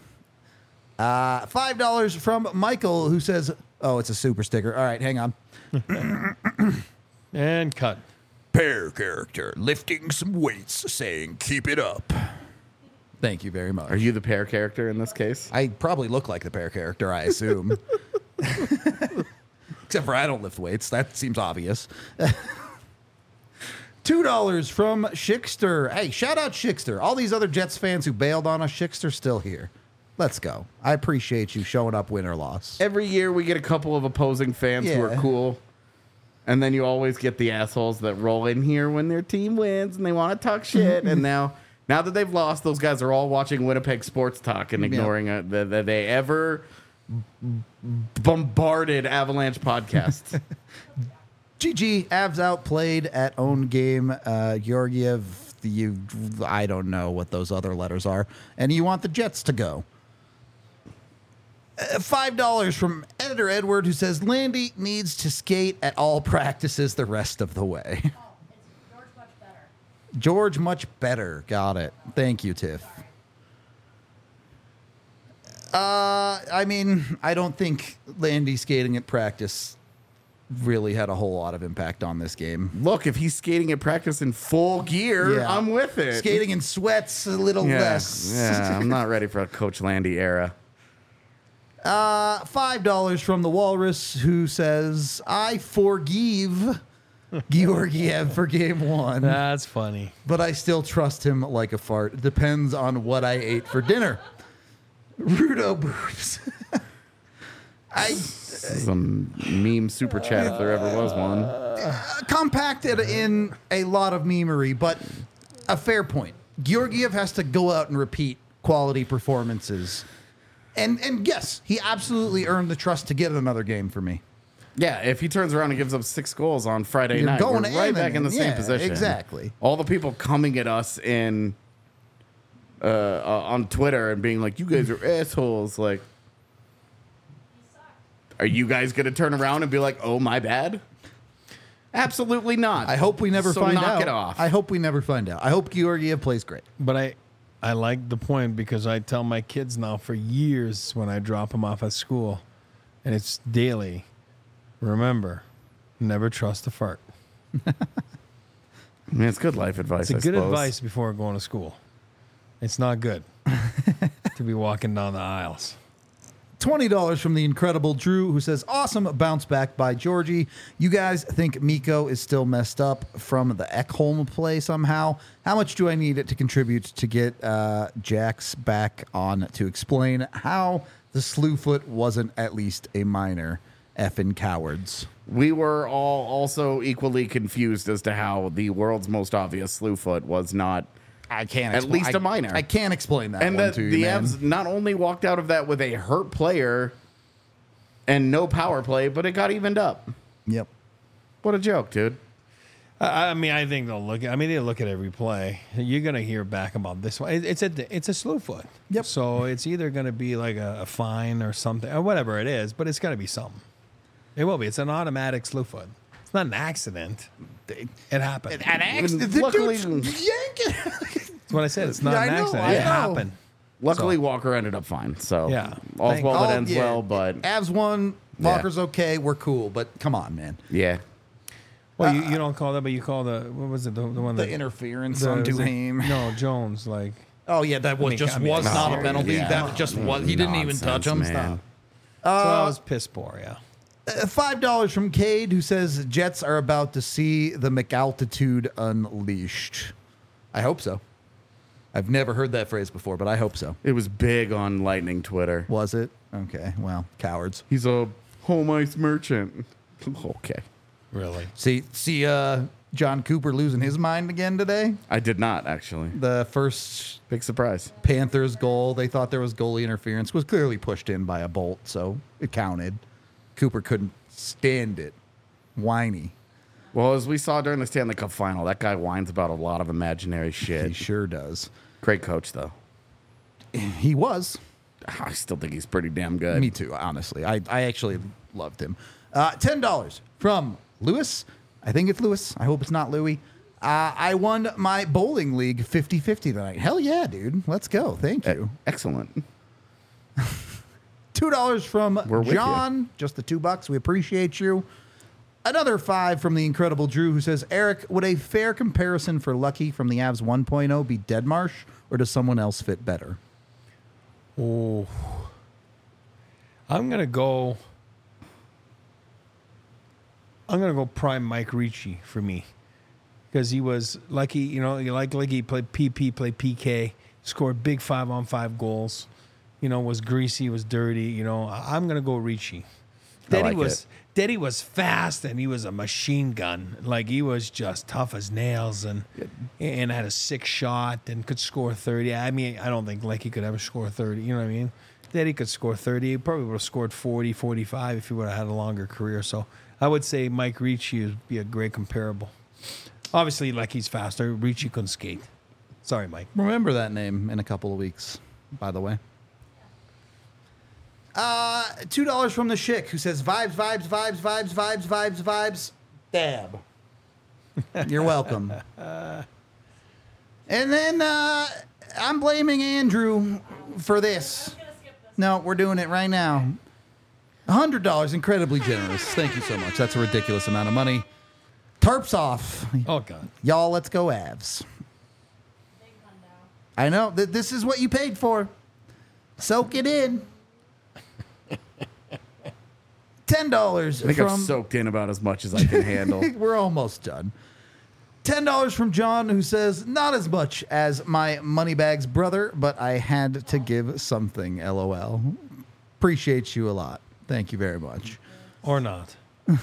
Speaker 1: $5 from Michael, who says, oh, it's a super sticker. All right, hang on.
Speaker 2: And cut.
Speaker 1: Pair character lifting some weights, saying, keep it up. Thank you very much.
Speaker 3: Are you the pair character in this case?
Speaker 1: I probably look like the pair character, I assume. Except for I don't lift weights. That seems obvious. $2 from Schickster. Hey, shout out Schickster. All these other Jets fans who bailed on us, Schickster's still here. Let's go. I appreciate you showing up, win or loss.
Speaker 3: Every year we get a couple of opposing fans who are cool. And then you always get the assholes that roll in here when their team wins and they want to talk shit. And now that they've lost, those guys are all watching Winnipeg Sports Talk and ignoring that they ever bombarded Avalanche podcast.
Speaker 1: GG, Avs outplayed at own game. Georgiev, I don't know what those other letters are. And you want the Jets to go. $5 from Editor Edward, who says Landy needs to skate at all practices the rest of the way.
Speaker 10: Oh, it's George much better.
Speaker 1: George much better. Got it. Thank you, Tiff. I mean, I don't think Landy skating at practice really had a whole lot of impact on this game.
Speaker 3: Look, if he's skating at practice in full gear,
Speaker 1: Yeah.
Speaker 3: I'm with it.
Speaker 1: Skating in sweats, a little less.
Speaker 3: Yeah, I'm not ready for a Coach Landy era.
Speaker 1: $5 from the Walrus, who says, I forgive Georgiev for game one.
Speaker 2: That's funny.
Speaker 1: But I still trust him like a fart. It depends on what I ate for dinner. Rudo boobs.
Speaker 3: Some meme super chat if there ever was one.
Speaker 1: Compacted in a lot of memery, but a fair point. Georgiev has to go out and repeat quality performances. And yes, he absolutely earned the trust to get another game for me.
Speaker 3: Yeah, if he turns around and gives up 6 goals on Friday
Speaker 1: You're
Speaker 3: night,
Speaker 1: going
Speaker 3: we're
Speaker 1: to
Speaker 3: right
Speaker 1: end
Speaker 3: back in the same
Speaker 1: yeah,
Speaker 3: position.
Speaker 1: exactly.
Speaker 3: All the people coming at us in on Twitter and being like, "You guys are assholes." Like, are you guys going to turn around and be like, "Oh, my bad"? Absolutely not.
Speaker 1: I hope we never
Speaker 3: So
Speaker 1: find
Speaker 3: knock
Speaker 1: out.
Speaker 3: it off.
Speaker 1: I hope we never find out. I hope Georgiev plays great.
Speaker 2: But I like the point because I tell my kids now for years when I drop them off at school, and it's daily. Remember, never trust a fart.
Speaker 3: I mean, it's good life advice.
Speaker 2: It's a
Speaker 3: I
Speaker 2: good
Speaker 3: suppose.
Speaker 2: advice before going to school. It's not good to be walking down the aisles.
Speaker 1: $20 from the incredible Drew, who says, awesome bounce back by Georgie. You guys think Mikko is still messed up from the Ekholm play somehow? How much do I need it to contribute to get Jax back on to explain how the slew foot wasn't at least a minor effing cowards?
Speaker 3: We were all also equally confused as to how the world's most obvious slew foot was not
Speaker 1: I can't
Speaker 3: at least a minor.
Speaker 1: I can't explain that
Speaker 3: And
Speaker 1: one
Speaker 3: that
Speaker 1: to you,
Speaker 3: the
Speaker 1: man.
Speaker 3: Avs not only walked out of that with a hurt player and no power play, but it got evened up.
Speaker 1: Yep.
Speaker 3: What a joke, dude.
Speaker 2: I mean, I think they'll look. I mean, they look at every play. You're gonna hear back about this one. It's a slew foot.
Speaker 1: Yep.
Speaker 2: So it's either gonna be like a fine or something or whatever it is, but it's gotta be something. It will be. It's an automatic slew foot. It's not an accident. It happened.
Speaker 1: An accident. The
Speaker 3: Luckily-
Speaker 1: dude's yanking.
Speaker 2: That's what I said. It's not
Speaker 1: Yeah,
Speaker 2: an
Speaker 1: I know,
Speaker 2: accident.
Speaker 1: I
Speaker 2: It
Speaker 1: know.
Speaker 2: happened.
Speaker 3: Luckily, Walker ended up fine. So
Speaker 2: Yeah.
Speaker 3: all's well that
Speaker 1: Oh,
Speaker 3: ends
Speaker 1: yeah.
Speaker 3: well. But
Speaker 1: Avs won.
Speaker 3: Yeah.
Speaker 1: Walker's okay. We're cool. But come on, man.
Speaker 3: yeah,
Speaker 2: Well, you don't call that, but you call the what was it? The one
Speaker 1: The
Speaker 2: that
Speaker 1: interference
Speaker 2: the-
Speaker 1: on
Speaker 2: was it-
Speaker 1: Duhaime.
Speaker 2: No, Jones. Like
Speaker 1: Oh yeah, that was
Speaker 2: I mean,
Speaker 1: just
Speaker 2: I mean,
Speaker 1: was
Speaker 2: no,
Speaker 1: not a penalty.
Speaker 3: yeah.
Speaker 1: That just was. He didn't even touch him.
Speaker 3: Nonsense, man.
Speaker 2: so that was piss poor. Yeah.
Speaker 1: $5 from Cade, who says Jets are about to see the McAltitude unleashed. I hope so. I've never heard that phrase before, but I hope so.
Speaker 3: it was big on Lightning Twitter.
Speaker 1: Was it? Okay. Well, cowards.
Speaker 3: He's a home ice merchant. Okay,
Speaker 2: Really.
Speaker 1: See, John Cooper losing his mind again today.
Speaker 3: I did not actually.
Speaker 1: The first
Speaker 3: Big surprise.
Speaker 1: Panthers goal, they thought there was goalie interference, was clearly pushed in by a bolt, so it counted. Cooper couldn't stand it. Whiny.
Speaker 3: Well, as we saw during the Stanley Cup final, that guy whines about a lot of imaginary
Speaker 1: He
Speaker 3: shit.
Speaker 1: sure does.
Speaker 3: Great coach, though.
Speaker 1: He was.
Speaker 3: I still think he's pretty damn good.
Speaker 1: Me too, honestly. I actually loved him. $10 from Lewis. I think it's Lewis. I hope it's not Louie. I won my bowling league 50-50 tonight. Hell yeah, dude. Let's go. Thank you.
Speaker 3: Excellent.
Speaker 1: $2 from
Speaker 3: We're with
Speaker 1: John. Just the $2. We appreciate you. Another 5 from the incredible Drew, who says, Eric, would a fair comparison for Lucky from the Avs 1.0 be Deadmarsh, or does someone else fit better?
Speaker 2: Oh, I'm gonna go prime Mike Ricci for me because he was Lucky. You know, Lucky played PP, played PK, scored big 5-on-5 goals. You know, was greasy, was dirty. You know, I'm gonna go Ricci. Daddy was fast and he was a machine gun. Like he was just tough as nails and had a sick shot and could score 30. I mean, I don't think Lucky could ever score 30. You know what I mean? Daddy could score 30. He probably would have scored 40, 45 if he would have had a longer career. So I would say Mike Ricci would be a great comparable. Obviously, like he's faster. Ricci couldn't skate. Sorry, Mike.
Speaker 1: Remember that name in a couple of weeks, by the way. $2 from the Schick, who says, vibes. Dab. You're welcome. And then I'm blaming Andrew for this. No, we're doing it right now. $100, incredibly generous. Thank you so much. That's a ridiculous amount of money. Tarps off.
Speaker 2: Oh, God.
Speaker 1: Y'all, let's go Avs. I know. This is what you paid for. Soak it in. $10
Speaker 3: I think I've soaked in about as much as I can handle.
Speaker 1: We're almost done. $10 from John, who says, not as much as my Moneybags brother, but I had to give something, LOL. Appreciate you a lot. Thank you very much.
Speaker 2: Or not.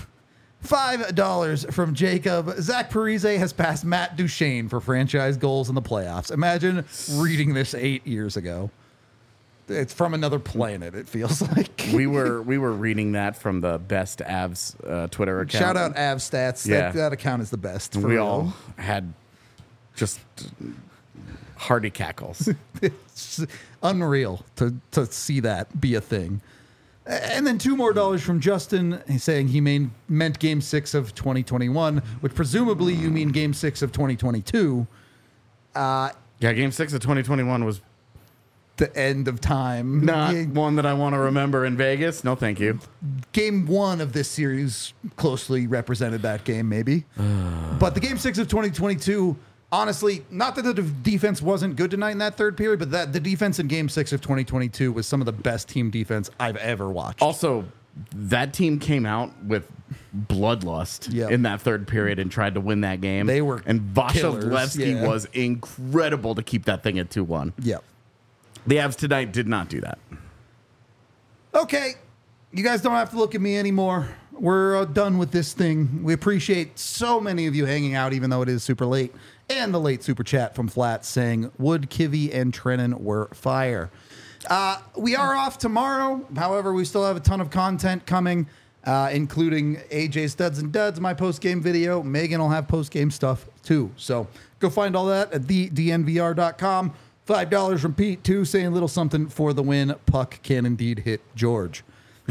Speaker 1: $5 from Jacob. Zach Parise has passed Matt Duchene for franchise goals in the playoffs. Imagine reading this 8 years ago. It's from another planet, it feels like.
Speaker 3: we were reading that from the best Avs Twitter account.
Speaker 1: Shout out Avs Stats.
Speaker 3: Yeah.
Speaker 1: That account is the best.
Speaker 3: We all had just hearty cackles.
Speaker 1: It's unreal to see that be a thing. And then $2 more from Justin. He's saying he meant Game 6 of 2021, which presumably you mean Game 6 of 2022.
Speaker 3: Yeah, Game 6 of 2021 was
Speaker 1: the end of time.
Speaker 3: Not one that I want to remember in Vegas. No, thank you.
Speaker 1: Game 1 of this series closely represented that game, maybe. But the Game 6 of 2022, honestly, not that the defense wasn't good tonight in that third period, but that the defense in Game 6 of 2022 was some of the best team defense I've ever watched.
Speaker 3: Also, that team came out with bloodlust in that third period and tried to win that game.
Speaker 1: They were
Speaker 3: and Vasilevsky
Speaker 1: killers,
Speaker 3: was incredible to keep that thing at 2-1.
Speaker 1: Yep.
Speaker 3: The Avs tonight did not do that.
Speaker 1: Okay. You guys don't have to look at me anymore. We're done with this thing. We appreciate so many of you hanging out, even though it is super late. And the late super chat from Flat saying Wood, Kivy, and Trennan were fire. We are off tomorrow. However, we still have a ton of content coming, including AJ Studs and Duds, my post-game video. Megan will have post-game stuff, too. So go find all that at thednvr.com. $5 from Pete, too, saying a little something for the win. Puck can indeed hit George.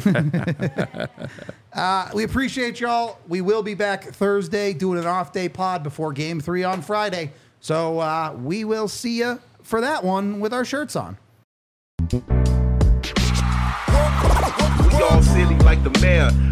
Speaker 1: We appreciate y'all. We will be back Thursday doing an off-day pod before Game 3 on Friday. So we will see you for that one with our shirts on.
Speaker 13: We all silly like the mayor.